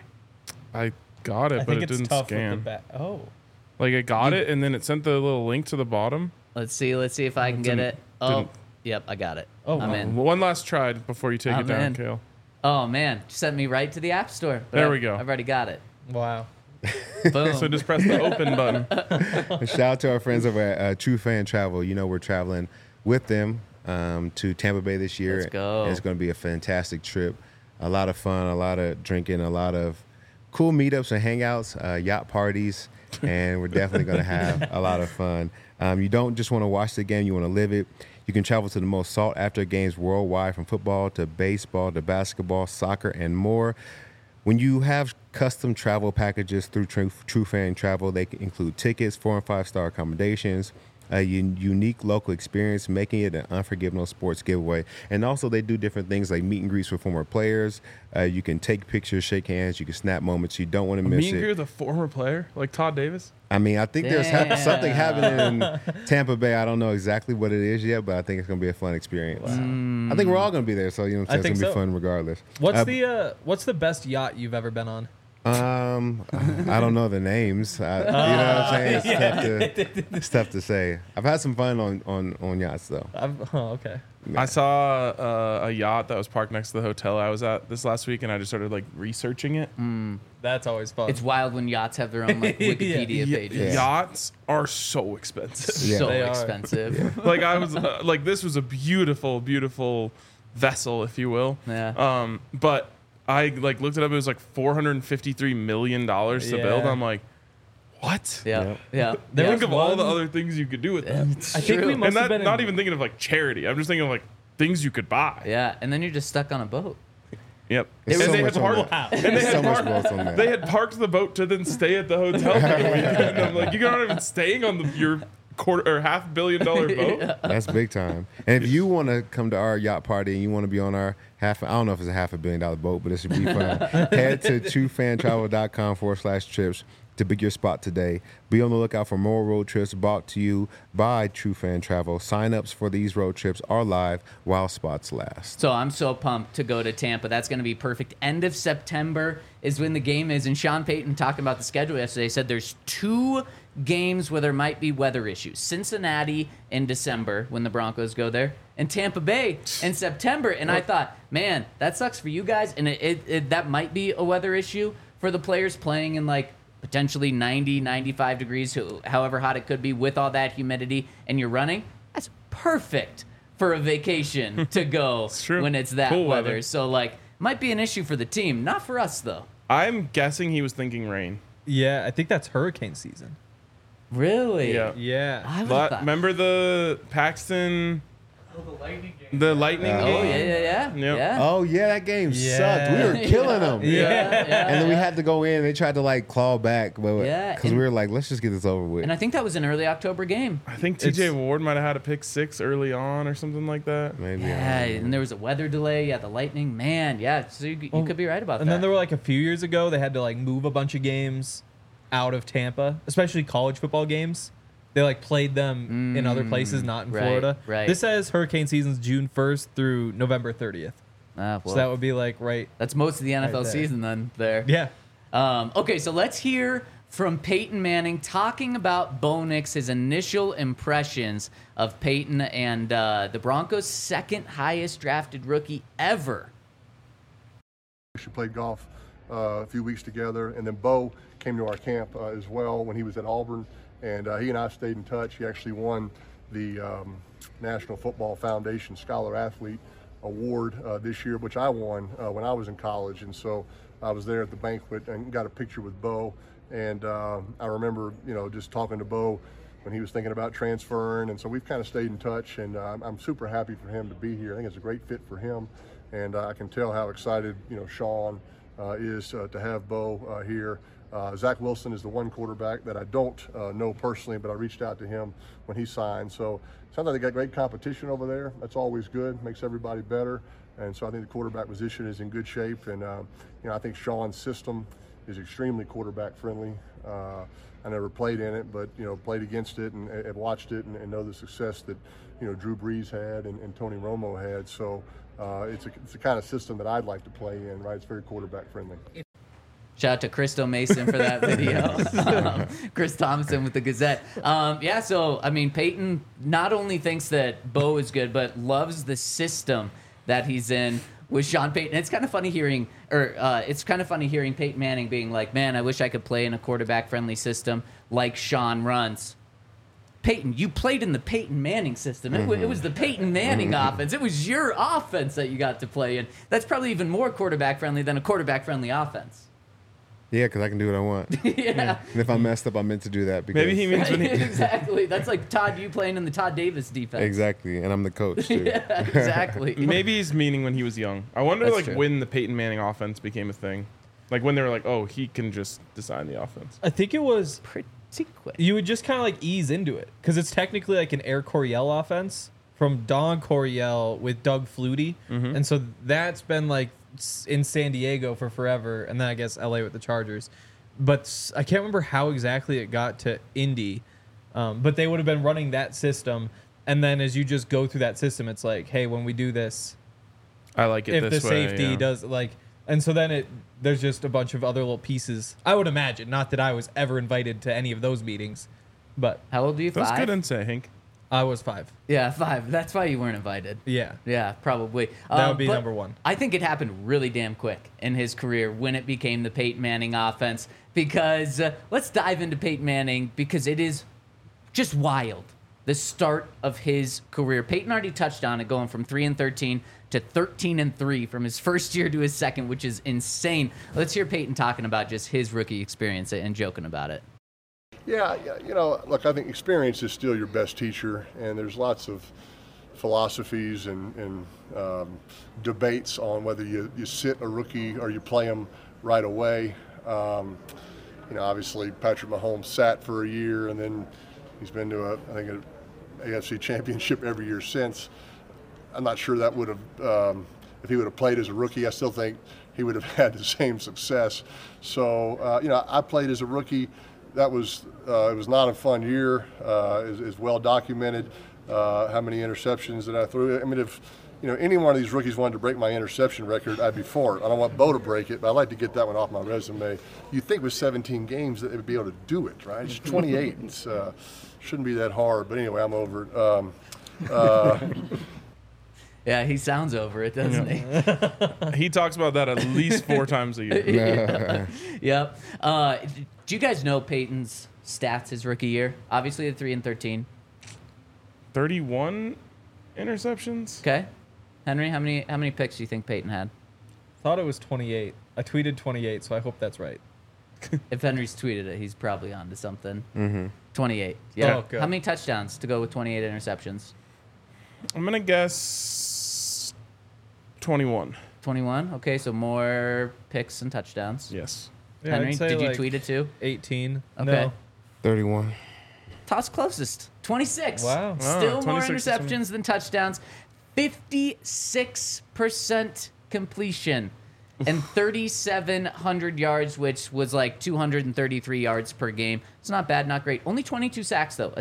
I got it, I but think it it's didn't tough scan. with the back. Oh. Like, I got it, and then it sent the little link to the bottom. Let's see if I can get it. Oh, didn't- yep, I got it. Oh, I'm wow. in. One last try before you take I'm it down, in. Kale. Oh man, sent me right to the App Store. But There we go. I've already got it. Wow. Boom. So just press the open button. Shout out to our friends over at True Fan Travel. You know, we're traveling with them to Tampa Bay this year. Let's go. And it's going to be a fantastic trip. A lot of fun, a lot of drinking, a lot of cool meetups and hangouts, yacht parties, and we're definitely going to have a lot of fun. You don't just want to watch the game, you want to live it. You can travel to the most sought-after games worldwide, from football to baseball to basketball, soccer, and more. When you have custom travel packages through True Fan Travel, they can include tickets, 4- and 5-star accommodations, a unique local experience, making it an unforgettable sports giveaway. And also, they do different things like meet and greets with former players. You can take pictures, shake hands, you can snap moments. You don't want to miss Me and it. Greer, the former player, like Todd Davis. I mean, I think there's something happening in Tampa Bay. I don't know exactly what it is yet, but I think it's going to be a fun experience. I think we're all going to be there, so it's going to be fun regardless. What's the best yacht you've ever been on? I don't know the names. You know what I'm saying? It's tough to say. I've had some fun on yachts though. Okay. Yeah. I saw a yacht that was parked next to the hotel I was at this last week, and I just started like researching it. That's always fun. It's wild when yachts have their own like Wikipedia pages. Yeah. Yachts are so expensive. Yeah. So They are. expensive. Like I was like, this was a beautiful, beautiful vessel, if you will. Yeah. But I like looked it up. It was like $453 million to build. I'm like, what? Yeah. Yeah. Think of all the one- other things you could do with that. It's I think true. we must And have that, been not in- even thinking of like charity. I'm just thinking of like things you could buy. Yeah, and then you're just stuck on a boat. Yep. There's And so they much had on parked. that. And they There's had so much parked. growth on that. They had parked the boat to then stay at the hotel for the weekend. And I'm like, you're not even staying on your quarter or $500 million boat. That's big time. And if you want to come to our yacht party and you want to be on our I don't know if it's a $500 million boat, but it should be fun. Head to truefantravel.com/trips to book your spot today. Be on the lookout for more road trips brought to you by True Fan Travel. Sign-ups for these road trips are live while spots last. So I'm so pumped to go to Tampa. That's going to be perfect. End of September is when the game is. And Sean Payton, talking about the schedule yesterday, said there's 2 games where there might be weather issues. Cincinnati in December when the Broncos go there, and Tampa Bay in September. And I thought, man, that sucks for you guys. And that might be a weather issue for the players playing in like potentially 90, 95 degrees, however hot it could be with all that humidity, and you're running. That's perfect for a vacation to go true. when it's that Cool weather. weather. So, like, might be an issue for the team. Not for us, though. I'm guessing he was thinking rain. Yeah, I think that's hurricane season. Really? Yeah. Yeah. I would've But thought- remember the Paxton, the Lightning Oh, Oh, game? yeah. Yep. Yeah. Oh, yeah, that game Yeah. sucked. We were killing them. Yeah. And then we had to go in. They tried to, like, claw back. Yeah, Because and- we were like, let's just get this over with. And I think that was an early October game. I think TJ Ward might have had a pick 6 early on or something like that. Maybe. Yeah, and there was a weather delay. Yeah, the Lightning. Man, yeah. So you could be right about And that. then there were like a few years ago, they had to like move a bunch of games out of Tampa, especially college football games. They like played them in other places, not in right, Florida. right. This says hurricane season's June 1st through November 30th. Well, So that would be like right. that's most of the NFL there. season then there. Yeah. Okay, so let's hear from Peyton Manning talking about Bo Nix, his initial impressions of Peyton and the Broncos' second highest drafted rookie ever. We played golf a few weeks together, and then Bo came to our camp as well when he was at Auburn, and he and I stayed in touch. He actually won the National Football Foundation Scholar Athlete Award this year, which I won when I was in college, and so I was there at the banquet and got a picture with Bo, and I remember, just talking to Bo when he was thinking about transferring, and so we've kind of stayed in touch, and I'm super happy for him to be here. I think it's a great fit for him, and I can tell how excited, Sean is to have Bo here. Zach Wilson is the one quarterback that I don't know personally, but I reached out to him when he signed. So it sounds like they got great competition over there. That's always good, makes everybody better. And so I think the quarterback position is in good shape. And, I think Sean's system is extremely quarterback friendly. I never played in it, but, played against it and watched it and know the success that, Drew Brees had and Tony Romo had. So it's the kind of system that I'd like to play in, right? It's very quarterback friendly. Shout out to Christo Mason for that video. Chris Thompson with the Gazette. So, I mean, Peyton not only thinks that Bo is good, but loves the system that he's in with Sean Payton. It's kind of funny hearing, Peyton Manning being like, man, I wish I could play in a quarterback-friendly system like Sean runs. Peyton, you played in the Peyton Manning system. It was the Peyton Manning offense. It was your offense that you got to play in. That's probably even more quarterback-friendly than a quarterback-friendly offense. Yeah, because I can do what I want. Yeah. And if I messed up, I meant to do that. Because Maybe he means when he. Exactly. That's like Todd, you playing in the Todd Davis defense. Exactly, and I'm the coach, too. Yeah, exactly. Maybe he's meaning when he was young. I wonder, That's like, true. when the Peyton Manning offense became a thing. Like, when they were like, oh, he can just design the offense. I think it was Secret. You would just kind of like ease into it because it's technically like an Air Coryell offense from Don Coryell with Doug Flutie. And so that's been like in San Diego for forever. And then I guess LA with the Chargers. But I can't remember how exactly it got to Indy. But they would have been running that system. And then as you just go through that system, it's like, hey, when we do this, I like it if this the way. safety Yeah. does like, and so then there's just a bunch of other little pieces. I would imagine, not that I was ever invited to any of those meetings, but How old are you? That's 5? good insight, Hank. I was 5. Yeah, 5. That's why you weren't invited. Yeah. Yeah, probably. That would be but number 1. I think it happened really damn quick in his career when it became the Peyton Manning offense. Because let's dive into Peyton Manning because it is just wild. The start of his career. Peyton already touched on it, going from 3-13 to 13-3 from his first year to his second, which is insane. Let's hear Peyton talking about just his rookie experience and joking about it. Yeah, look, I think experience is still your best teacher, and there's lots of philosophies and debates on whether you sit a rookie or you play him right away. Obviously Patrick Mahomes sat for a year, and then he's been to an AFC championship every year since. I'm not sure that would have, if he would have played as a rookie, I still think he would have had the same success. So, I played as a rookie. That was, it was not a fun year, is well documented, how many interceptions that I threw. I mean, if, any one of these rookies wanted to break my interception record, I'd be for it. I don't want Bo to break it, but I'd like to get that one off my resume. You'd think with 17 games that they would be able to do it, right? It's 28. It's shouldn't be that hard, but anyway, I'm over it. Yeah, he sounds over it, doesn't he? He talks about that at least 4 times a year. Yep. Do you guys know Peyton's stats his rookie year? Obviously, the 3-13. 31 interceptions. Okay. Henry, how many picks do you think Peyton had? Thought it was 28. I tweeted 28, so I hope that's right. If Henry's tweeted it, he's probably on to something. Mm-hmm. 28. Yeah. Oh, good. How many touchdowns to go with 28 interceptions? I'm gonna guess 21. 21. Okay, so more picks and touchdowns. Yes. Yeah, Henry, I'd say did you like tweet it too? 18. Okay. No. 31. Toss closest. 26. Wow. Still more 26 interceptions than touchdowns. 56% completion and 3,700 yards, which was like 233 yards per game. It's not bad, not great. Only 22 sacks, though. A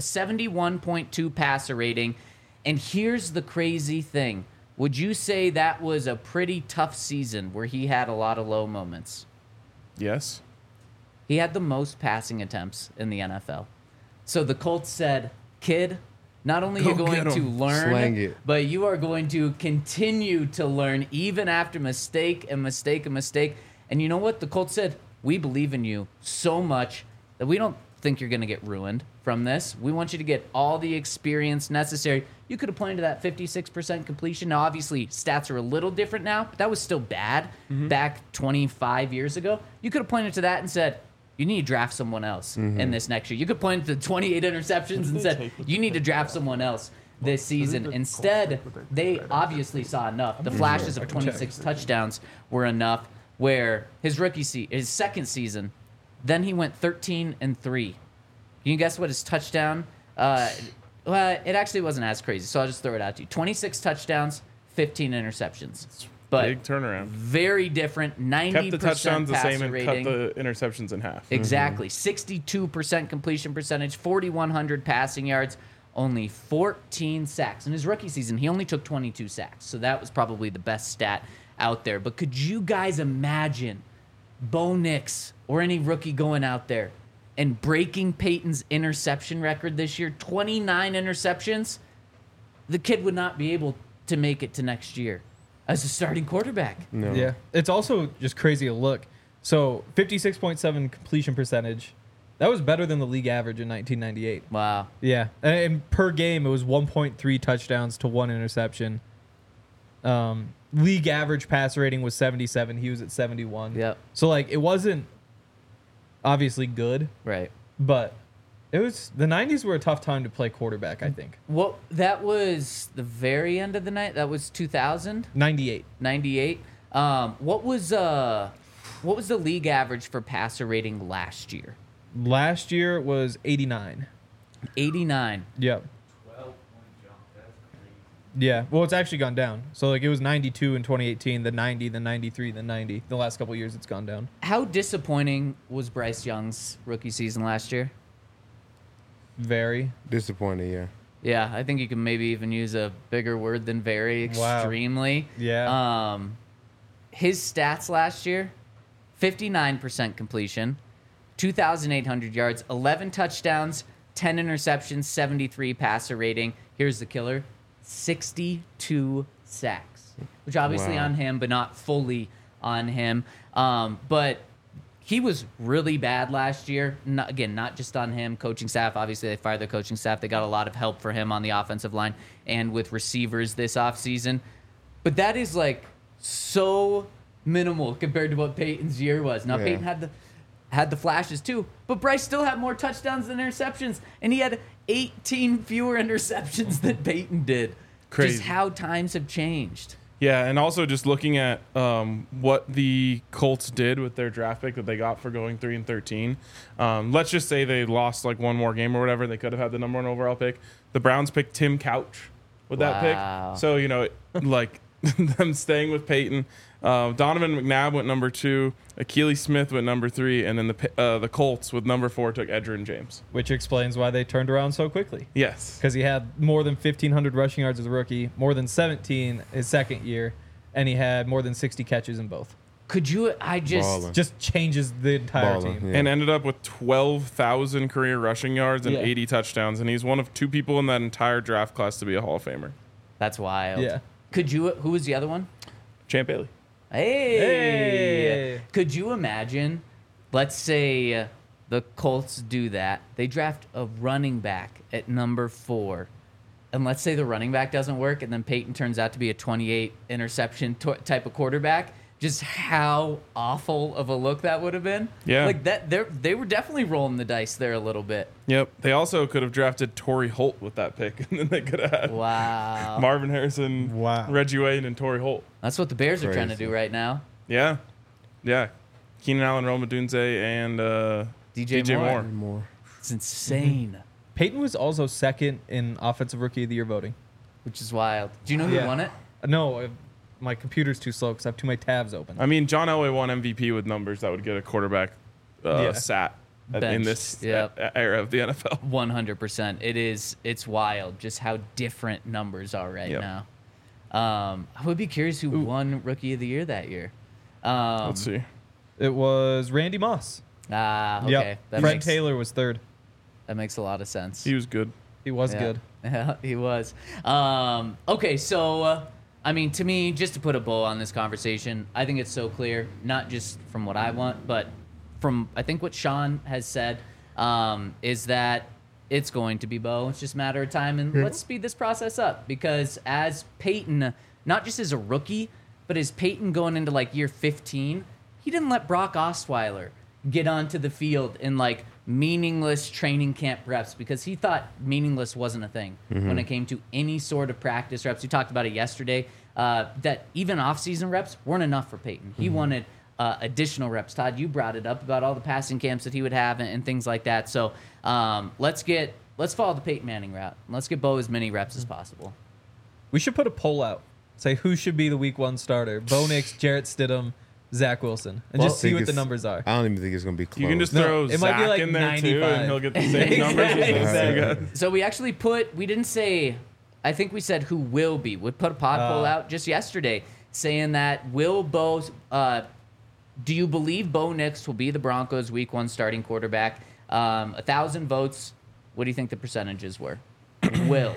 71.2 passer rating. And here's the crazy thing. Would you say that was a pretty tough season where he had a lot of low moments? Yes. He had the most passing attempts in the NFL. So the Colts said, kid, not only are you Go going get to 'em. Slang learn, it. but you are going to continue to learn even after mistake and mistake and mistake. And you know what? The Colts said, we believe in you so much that we don't think you're going to get ruined from this. We want you to get all the experience necessary. You could have pointed to that 56% completion. Now, obviously, stats are a little different now, but that was still bad back 25 years ago. You could have pointed to that and said, you need to draft someone else in this next year. You could point to 28 interceptions and said, you need to draft someone else this season. Instead, they obviously saw enough. The flashes of 26 touchdowns were enough where his his second season, then he went 13-3. Can you guess what his touchdown? Well, it actually wasn't as crazy, so I'll just throw it out to you. 26 touchdowns, 15 interceptions. But Big turnaround. very different. 90% Kept the touchdowns the same passer and rating. cut the interceptions in half. Exactly. 62% completion percentage, 4,100 passing yards, only 14 sacks. In his rookie season, he only took 22 sacks. So that was probably the best stat out there. But could you guys imagine Bo Nix or any rookie going out there and breaking Peyton's interception record this year? 29 interceptions. The kid would not be able to make it to next year as a starting quarterback. No. Yeah. It's also just crazy to look. So 56.7 completion percentage. That was better than the league average in 1998. Wow. Yeah. And per game, it was 1.3 touchdowns to 1 interception. League average passer rating was 77. He was at 71. Yep. So, like, it wasn't obviously good, Right. but it was the 90s were a tough time to play quarterback, I think. Well, that was the very end of the night. That was 2000, 98. 98. What was the league average for passer rating last year? Last year it was 89. 89. Yep. Yeah. Well, it's actually gone down. So like it was 92 in 2018, then 90, then 93, then 90. The last couple of years it's gone down. How disappointing was Bryce Young's rookie season last year? Very. Disappointing, yeah. Yeah, I think you can maybe even use a bigger word than very. Wow. Extremely. Yeah. His stats last year: 59% completion, 2,800 yards, 11 touchdowns, 10 interceptions, 73 passer rating. Here's the killer: 62 sacks, which obviously Wow. on him, but not fully on him. But he was really bad last year. Not just on him. Coaching staff, obviously, they fired their coaching staff. They got a lot of help for him on the offensive line and with receivers this offseason. But that is like so minimal compared to what Peyton's year was. Now, Yeah. Peyton had the flashes too, but Bryce still had more touchdowns than interceptions, and he had 18 fewer interceptions than Peyton did. Crazy. Just how times have changed. Yeah, and also just looking at what the Colts did with their draft pick that they got for going 3-13. Let's just say they lost like one more game or whatever. They could have had the number 1 overall pick. The Browns picked Tim Couch with that Wow. pick. So, like them staying with Peyton. Donovan McNabb went number 2. Akili Smith went number 3. And then the Colts with number 4 took Edgerrin James. Which explains why they turned around so quickly. Yes. Because he had more than 1,500 rushing yards as a rookie, more than 17 his second year, and he had more than 60 catches in both. Could you? Ballin'. Just changes the entire Ballin', team. yeah. And ended up with 12,000 career rushing yards and Yeah. 80 touchdowns. And he's one of 2 people in that entire draft class to be a Hall of Famer. That's wild. Yeah. Could you? Who was the other one? Champ Bailey. Hey. Hey. Could you imagine? Let's say the Colts do that. They draft a running back at number 4. And let's say the running back doesn't work, and then Peyton turns out to be a 28 interception type of quarterback. Just how awful of a look that would have been. Yeah. Like that, they were definitely rolling the dice there a little bit. Yep. They also could have drafted Torrey Holt with that pick, and then they could have had Wow. Marvin Harrison, Wow. Reggie Wayne, and Torrey Holt. That's what the Bears are trying to Crazy. do right now. Yeah. Yeah. Keenan Allen, Rome Odunze, and DJ Moore. More. It's insane, Peyton was also second in Offensive Rookie of the Year voting. which is wild. Do you know who Yeah. won it? No, my computer's too slow because I have too many tabs open. I mean, John Elway won MVP with numbers that would get a quarterback Yeah. sat in Benched. this Yep. era of the NFL. 100%. It's wild just how different numbers are right Yep. now. I would be curious who won Rookie of the Year that year. Let's see. It was Randy Moss. Okay. Yep. That Fred makes, Taylor was third. That makes a lot of sense. He was good. He was Yeah. good. Yeah, he was. Okay, so, I mean, to me, just to put a bow on this conversation, I think it's so clear, not just from what I want, but from, I think, what Sean has said, is that it's going to be Bo. It's just a matter of time, and let's speed this process up, because as Peyton, not just as a rookie, but as Peyton going into, like, year 15, he didn't let Brock Osweiler get onto the field in, like, meaningless training camp reps because he thought meaningless wasn't a thing when it came to any sort of practice reps. We talked about it yesterday, that even off-season reps weren't enough for Peyton. He wanted additional reps. Todd, you brought it up about all the passing camps that he would have and things like that. So let's follow the Peyton Manning route. Let's get Bo as many reps as possible. We should put a poll out. Say who should be the Week 1 starter. Bo Nix, Jarrett Stidham, Zach Wilson. And just see what the numbers are. I don't even think it's going to be close. You can just No, throw it might be Zach like in there too, 95. and he'll get the same numbers. as those Exactly. two guys. So we actually we didn't say, I think we said who will be. We put a pod poll out just yesterday saying that do you believe Bo Nix will be the Broncos' Week 1 starting quarterback? 1,000 votes. What do you think the percentages were? Will.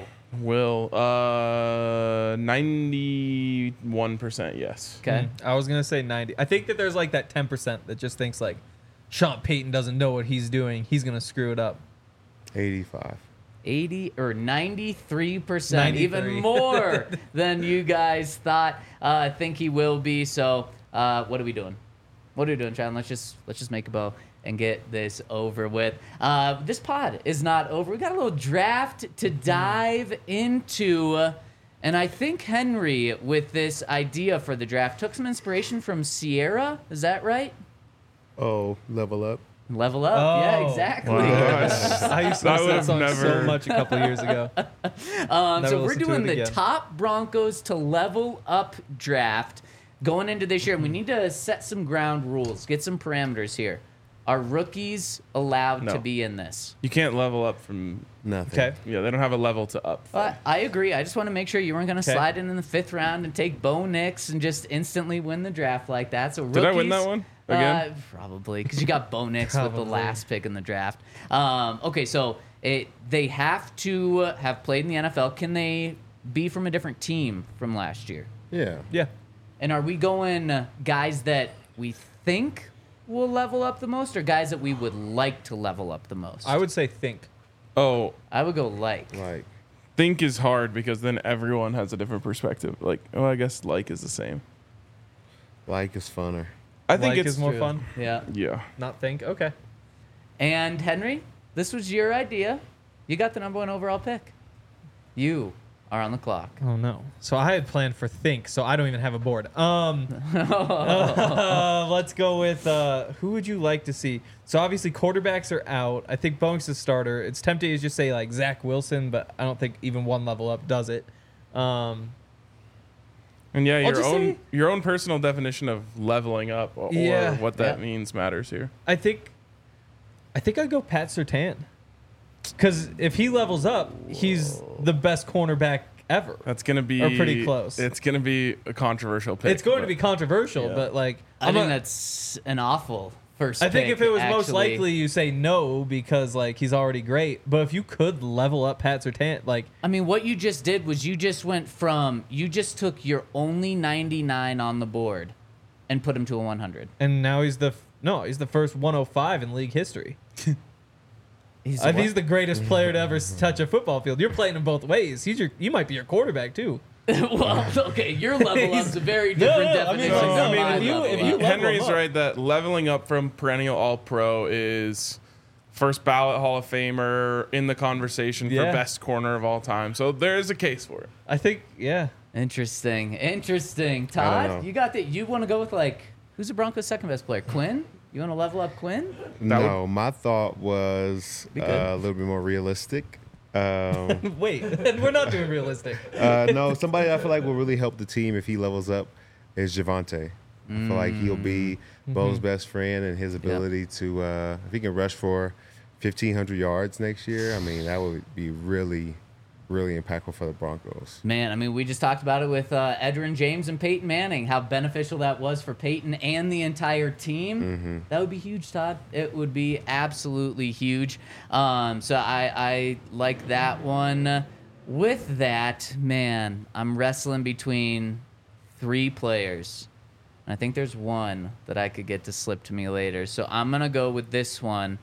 91% yes. Okay. I was going to say 90. I think that there's like that 10% that just thinks like Sean Payton doesn't know what he's doing. He's going to screw it up. 85. 80 or 93%, 93. even more than you guys thought. Think he will be. So, what are we doing? What are we doing, Chad? Let's just make a bow and get this over with. This pod is not over. We got a little draft to dive into. And I think Henry, with this idea for the draft, took some inspiration from Sierra. Is that right? Oh, level up. Level up. Yeah, Oh. exactly. I used to I listen to would've that song so never- much a couple years ago. Never So we're listened to doing it the again. top Broncos to level up draft going into this year. And we need to set some ground rules, get some parameters here. Are rookies allowed No. to be in this? You can't level up from. Nothing. Okay. Yeah, they don't have a level to up. from. I agree. I just want to make sure you weren't going to Okay. slide in the 5th round and take Bo Nix and just instantly win the draft like that. So rookies, Did I win that one again? Probably, because you got Bo Nix with the Probably. last pick in the draft. Okay, so they have to have played in the NFL. Can they be from a different team from last year? Yeah. Yeah. And are we going guys that we think will level up the most, or guys that we would like to level up the most? I would say think. Oh, I would go like. Like, think is hard because then everyone has a different perspective. Like, oh, I guess like is the same. is funner. I think Like it's is more True. fun. Yeah. Yeah. Not think. Okay. And Henry, this was your idea. You got the number 1 overall pick. You are on the clock. Oh no. So I had planned for think, so I don't even have a board. Let's go with who would you like to see? So obviously quarterbacks are out. I think Bonk's a starter. It's tempting to just say like Zach Wilson, but I don't think even one level up does it. And yeah, I'll just say- your own personal definition of leveling up or Yeah. what that Yeah. means matters here. I think I'd go Pat Surtain. Because if he levels up, he's the best cornerback ever. That's gonna be Or pretty close. It's gonna be a controversial pick. It's going to but- be controversial, Yeah. but like I I'm think not- that's an awful first I think pick, if it was most actually. likely, you say no because like he's already great. But if you could level up Pat Surtain, like I mean, what you just did was you just took your only 99 on the board and put him to a 100. and now he's the first 105 in league history. He's He's the greatest player to ever touch a football field. You're playing him both ways. You might be your quarterback too. well, okay, your level up's a very No, different no, I mean, definition. no, than I mean, my if you- level if up. you level Henry's him up. right that leveling up from perennial All-Pro is first ballot Hall of Famer in the conversation Yeah. for best corner of all time. So there is a case for it. I think, yeah. Interesting. know. Todd, you got that? You want to go with like who's the Broncos' second best player? Quinn? You want to level up Quinn? No, my thought was Be good. a little bit more realistic. Wait, we're not doing realistic. No, somebody I feel like will really help the team if he levels up is Javonte. I feel like he'll be Bo's best friend, and his ability to, if he can rush for 1,500 yards next year, I mean, that would be really, really impactful for the Broncos. Man, I mean, we just talked about it with Edgerrin James and Peyton Manning, how beneficial that was for Peyton and the entire team. That would be huge, Todd. It would be absolutely huge. So I like that one. With that, man, I'm wrestling between 3 players. And I think there's one that I could get to slip to me later. So I'm going to go with this one.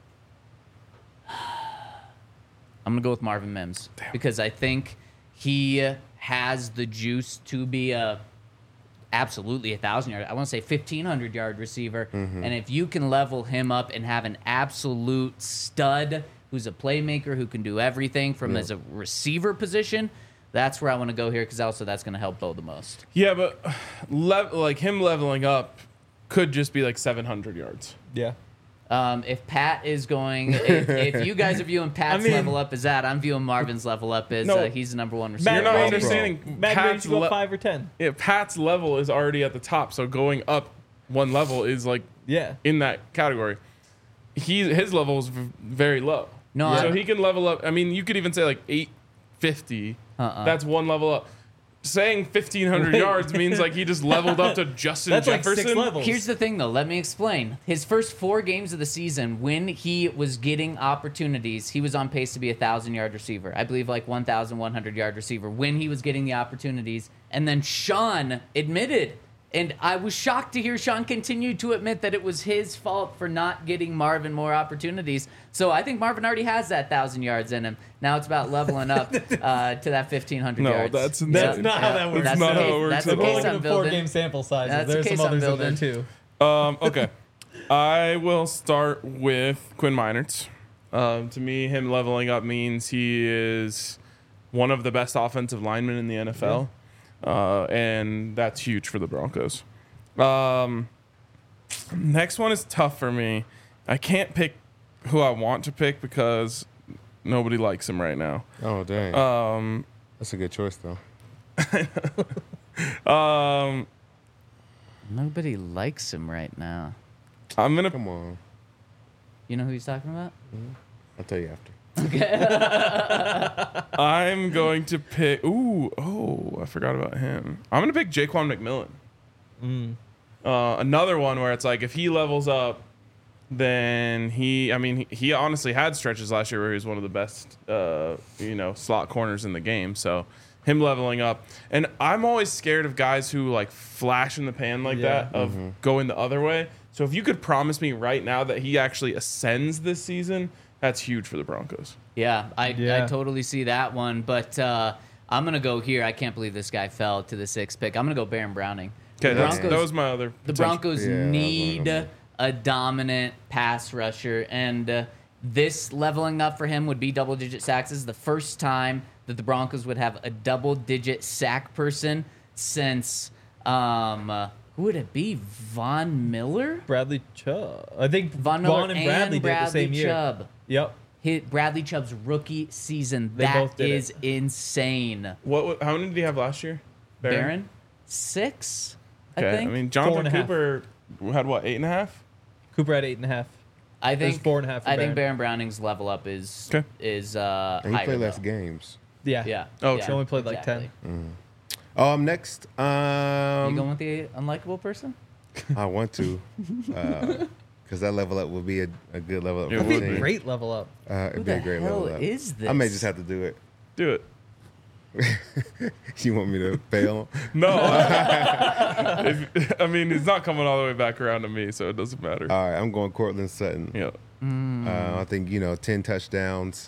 I'm going to go with Marvin Mims because I think he has the juice to be absolutely 1,000-yard. I want to say 1,500-yard receiver. And if you can level him up and have an absolute stud who's a playmaker who can do everything from as a receiver position, that's where I want to go here because also that's going to help Bo the most. Yeah, but like him leveling up could just be like 700 yards. Yeah. If Pat is going, if you guys are viewing Pat's mean- level up as that, I'm viewing Marvin's level up as No. he's the number 1 receiver. You're not Brady- understanding. Matt, Brady, Pat's you go le- 5 or 10. yeah, Pat's level is already at the top, so going up one level is like Yeah. in that category. His level is very low. No, so I- he can level up. I mean, you could even say like 850. That's one level up. Saying 1,500 yards means like he just leveled up to Justin That's like Jefferson. 6 levels. Here's the thing, though. Let me explain. His first 4 games of the season, when he was getting opportunities, he was on pace to be a 1,000-yard receiver. I believe like 1,100-yard receiver when he was getting the opportunities. And then Sean admitted, and I was shocked to hear Sean continue to admit that it was his fault for not getting Marvin more opportunities. So I think Marvin already has that 1,000 yards in him. Now it's about leveling up to that 1,500 No, yards. that's That's not how that works. That's Not the how it case, works that's at the all. case Looking I'm at building. 4-game sample sizes. That's the There's case some I'm others in there building. too. Okay. I will start with Quinn Meinerz. To me, him leveling up means he is one of the best offensive linemen in the NFL. And that's huge for the Broncos. Next one is tough for me. I can't pick who I want to pick because nobody likes him right now. Oh dang. That's a good choice though. Nobody likes him right now. I'm gonna. Come on. You know who he's talking about? I'll tell you after. I'm going to pick. I forgot about him. I'm gonna pick Jaquan McMillan. Another one where it's like if he levels up, then he honestly had stretches last year where he was one of the best, slot corners in the game. So him leveling up, and I'm always scared of guys who like flash in the pan like that of going the other way. So if you could promise me right now that he actually ascends this season, that's huge for the Broncos. Yeah, I totally see that one. But I'm going to go here. I can't believe this guy fell to the 6th pick. I'm going to go Baron Browning. Okay, that was my other. The Broncos need a dominant pass rusher. And this leveling up for him would be double-digit sacks. This is the first time that the Broncos would have a double-digit sack person since... who would it be? Von Miller? Bradley Chubb. I think Von Miller and Bradley did it the same year. Chubb. Yep. Hit Bradley Chubb's rookie season. They both That did is insane. How many did he have last year? Baron? 6, Okay, I think. I mean, Jonathan 4.5. Cooper had what, 8.5? Cooper had 8.5. I think 4.5 for I think Baron. Baron Browning's level up is Okay. And he higher, played less though. games. Yeah. Yeah. Oh, yeah, She only played like exactly. 10. Next. You going with the unlikable person? I want to, because that level up would be a good level up. It for That'd the would be a team. great level up. It'd Who be a the great hell level up. is this? I may just have to do it. Do it. You want me to fail? No. He's not coming all the way back around to me, so it doesn't matter. All right, I'm going Cortland Sutton. Yeah. I think 10 touchdowns,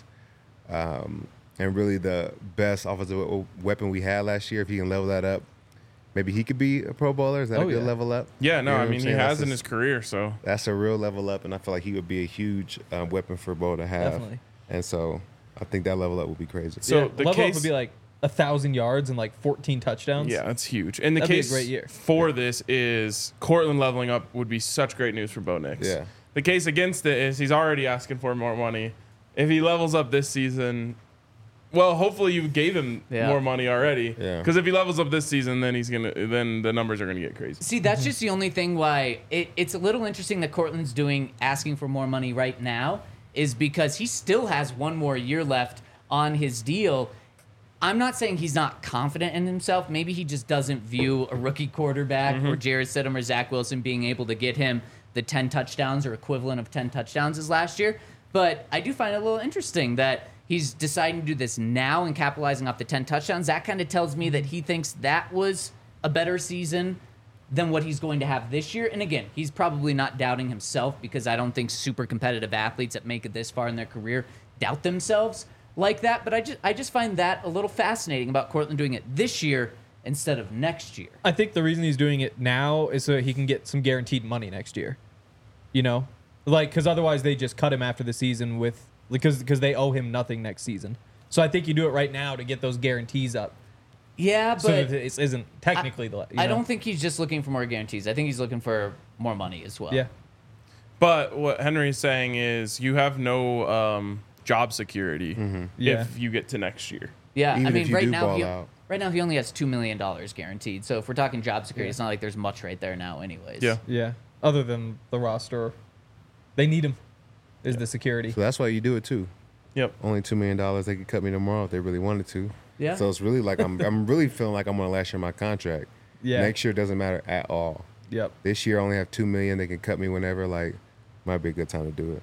and really the best offensive weapon we had last year. If he can level that up, maybe he could be a Pro Bowler. Is that a good level up? Yeah, no, You know what I'm he saying? has That's in a- his career, so. That's a real level up, and I feel like he would be a huge weapon for Bo to have. Definitely. And so I think that level up would be crazy. So Yeah, the level case up would be like 1,000 yards and like 14 touchdowns. Yeah, that's huge. And the That'd be a case great year. for this is Cortland leveling up would be such great news for Bo Nix. Yeah. The case against it is he's already asking for more money. If he levels up this season, well, hopefully you gave him more money already. Yeah. Because if he levels up this season, then then the numbers are gonna get crazy. See, that's just the only thing why it's a little interesting that Cortland's asking for more money right now is because he still has one more year left on his deal. I'm not saying he's not confident in himself. Maybe he just doesn't view a rookie quarterback or Jarrett Stidham or Zach Wilson being able to get him the 10 touchdowns or equivalent of 10 touchdowns as last year. But I do find it a little interesting that he's deciding to do this now and capitalizing off the 10 touchdowns. That kind of tells me that he thinks that was a better season than what he's going to have this year. And again, he's probably not doubting himself because I don't think super competitive athletes that make it this far in their career doubt themselves like that. But I just find that a little fascinating about Cortland doing it this year instead of next year. I think the reason he's doing it now is so he can get some guaranteed money next year. You know? Like, because otherwise they just cut him after the season because they owe him nothing next season. So I think you do it right now to get those guarantees up. Yeah, but So that it isn't technically I don't think he's just looking for more guarantees. I think he's looking for more money as well. Yeah. But what Henry's saying is you have no job security Yeah. if you get to next year. Yeah, Even I mean, if you do ball out. right now he only has $2 million guaranteed. So if we're talking job security, it's not like there's much right there now anyways. Yeah. Yeah. Other than the roster, they need him. Is the security. So that's why you do it too. Yep. Only $2 million. They could cut me tomorrow if they really wanted to. Yeah. So it's really like I'm really feeling like I'm on the last year of my contract. Yeah. Next year doesn't matter at all. Yep. This year I only have $2 million. They can cut me whenever. Like, might be a good time to do it.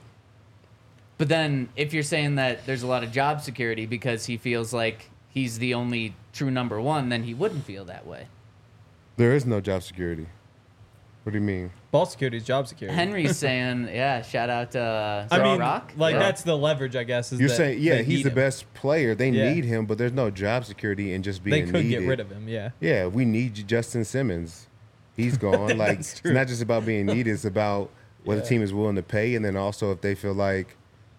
But then if you're saying that there's a lot of job security because he feels like he's the only true number one, then he wouldn't feel that way. There is no job security. What do you mean? Ball security is job security. Henry's saying, yeah, shout out to I mean, Rock. like Yeah. that's the leverage, I guess. Is You're that saying, yeah, they he's need the him. best player. They Yeah. need him, but there's no job security in just They being could needed. get rid of him. Yeah. Yeah, we need Justin Simmons. He's gone. Like, That's it's true. not just about being needed. It's about what the Yeah. team is willing to pay, and then also if they feel like.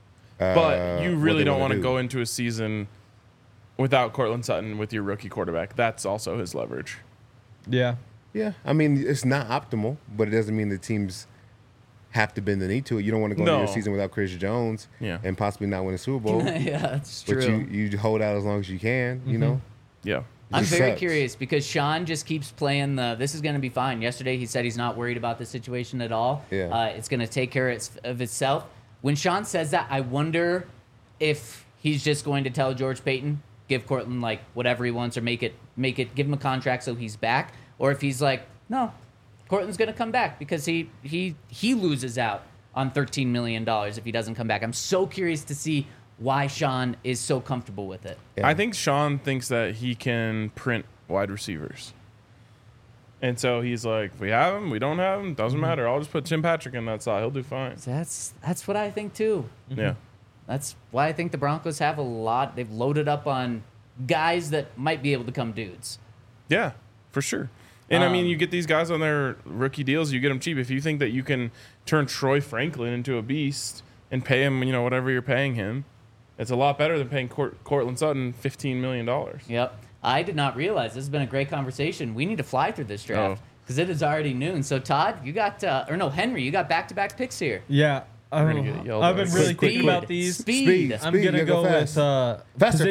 But you what really they don't wanna want to do. go into a season without Cortland Sutton with your rookie quarterback. That's also his leverage. Yeah. Yeah, I mean it's not optimal, but it doesn't mean the team's have to bend the knee to it. You don't want to go into your season without Chris Jones and possibly not win a Super Bowl. Yeah, that's true. But you hold out as long as you can, you know? Yeah. I'm very sucks. curious because Sean just keeps playing this is going to be fine. Yesterday he said he's not worried about the situation at all. Yeah. It's going to take care of itself. When Sean says that, I wonder if he's just going to tell George Payton, give Cortland like whatever he wants or make it, give him a contract so he's back. Or if he's like, no, Cortland's going to come back because he loses out on $13 million if he doesn't come back. I'm so curious to see why Sean is so comfortable with it. Yeah. I think Sean thinks that he can print wide receivers. And so he's like, if we have him, we don't have him, doesn't matter. I'll just put Tim Patrick in that slot. He'll do fine. That's what I think too. Yeah. That's why I think the Broncos have a lot. They've loaded up on guys that might be able to come dudes. Yeah, for sure. And I mean, you get these guys on their rookie deals, you get them cheap. If you think that you can turn Troy Franklin into a beast and pay him, whatever you're paying him, it's a lot better than paying Cortland Sutton $15 million. Yep. I did not realize this has been a great conversation. We need to fly through this draft because it is already noon. So Todd, you got Henry, you got back-to-back picks here. Yeah. I've been really thinking about these. Speed. I'm going to go with faster.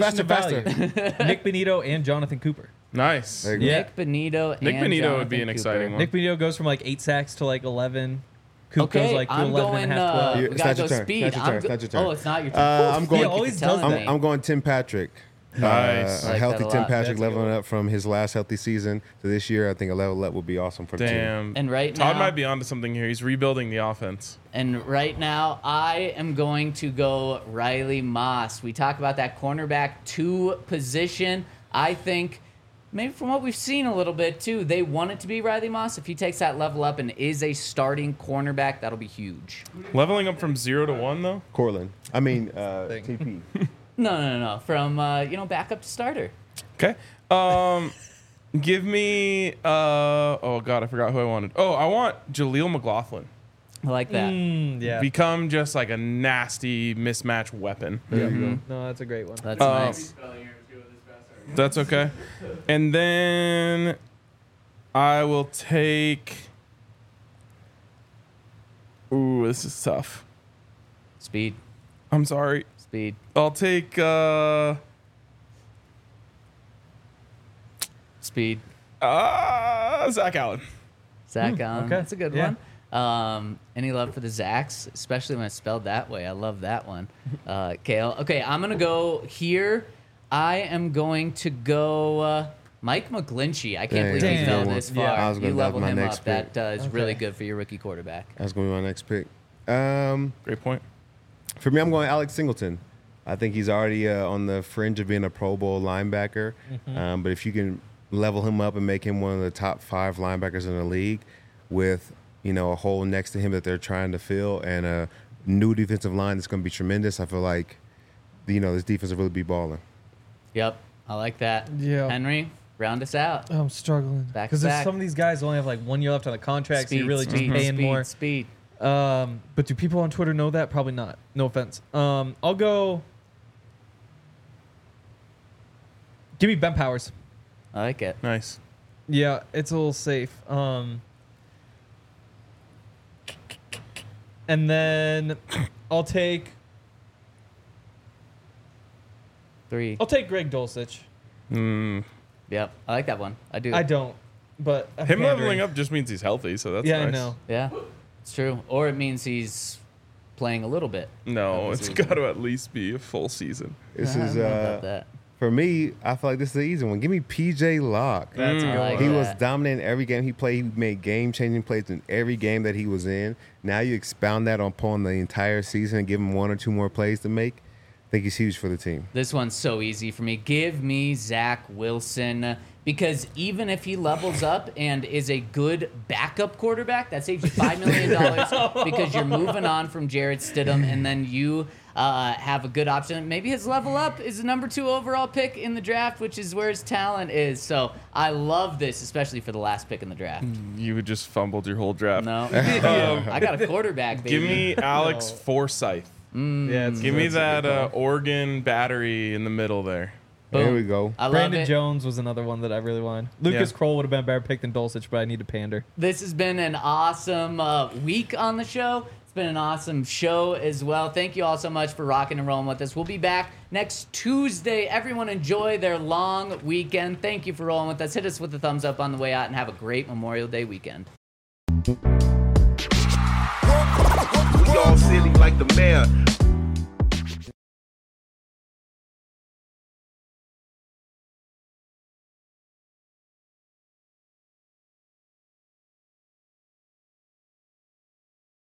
Nick Benito and Jonathan Cooper. Nice. Nick Benito and Nick Benito Jonathan would be an Cooper. exciting one. Nick Benito goes from like 8 sacks to like 11. Coop Okay, goes like to I'm 11 going. and a half, 12. We It's gotta not go your turn. speed. It's not your turn. It's not your turn. Oh, it's not your turn. I'm going. He always does that. I'm going Tim Patrick. Nice. A I like healthy that a Tim lot. Patrick That's a good leveling one. up from his last healthy season to this year. I think a level up would be awesome for the team. Damn. And right Todd now- might be onto something here. He's rebuilding the offense. And right now, I am going to go Riley Moss. We talk about that cornerback 2 position. I think, maybe from what we've seen a little bit too, they want it to be Riley Moss. If he takes that level up and is a starting cornerback, that'll be huge. Leveling up from 0 to 1, though? Cortland. I mean, TP. No. From backup to starter. Okay. Give me. Oh, God, I forgot who I wanted. Oh, I want Jaleel McLaughlin. I like that. Yeah. Become just like a nasty mismatch weapon. There you go. No, that's a great one. That's nice. That's okay. And then I will take. Ooh, this is tough. Speed. I'm sorry. Speed. I'll take. Speed. Zach Allen. Zach Allen. okay. That's a good Yeah. one. Any love for the Zachs, especially when it's spelled that way. I love that one. Kale. Okay, I'm going to go here. I am going to go Mike McGlinchey. I can't believe he Damn. fell this far. Yeah. I was gonna- You that was leveled my him next up. pick. That is really good for your rookie quarterback. That's going to be my next pick. Great point. For me, I'm going Alex Singleton. I think he's already on the fringe of being a Pro Bowl linebacker. But if you can level him up and make him one of the top 5 linebackers in the league with, a hole next to him that they're trying to fill and a new defensive line that's going to be tremendous, I feel like, this defense will really be balling. Yep, I like that. Yeah. Henry, round us out. I'm struggling Back because to back. some of these guys only have like 1 year left on the contract, so you're really just paying more. Speed. But do people on Twitter know that? Probably not. No offense. I'll go. Give me Ben Powers. I like it. Nice. Yeah, it's a little safe. And then I'll take 3. I'll take Greg Dulcich. Yep, I like that one. I do. I don't, but I'm Him pandering. leveling up just means he's healthy, so that's Yeah, nice. I know. Yeah, it's true. Or it means he's playing a little bit. No, That it's was got to at least be a full season. This I is, don't know about that. for me, I feel like this is the easy one. Give me PJ Locke. That's a good I like one. He that. was dominant in every game he played. He made game-changing plays in every game that he was in. Now you expound that upon the entire season and give him 1 or 2 more plays to make. I think he's huge for the team. This one's so easy for me. Give me Zach Wilson because even if he levels up and is a good backup quarterback, that saves you $5 million because you're moving on from Jarrett Stidham and then you have a good option. Maybe his level up is the number 2 overall pick in the draft, which is where his talent is. So I love this, especially for the last pick in the draft. You just fumbled your whole draft. No, I got a quarterback, baby. Give me Alex Forsyth. Yeah, Give me that Oregon battery in the middle there. There we go. I love Brandon it. Jones was another one that I really wanted. Lucas Kroll would have been a better pick than Dulcich, but I need to pander. This has been an awesome week on the show. It's been an awesome show as well. Thank you all so much for rocking and rolling with us. We'll be back next Tuesday. Everyone enjoy their long weekend. Thank you for rolling with us. Hit us with a thumbs up on the way out and have a great Memorial Day weekend. We all silly like the mayor.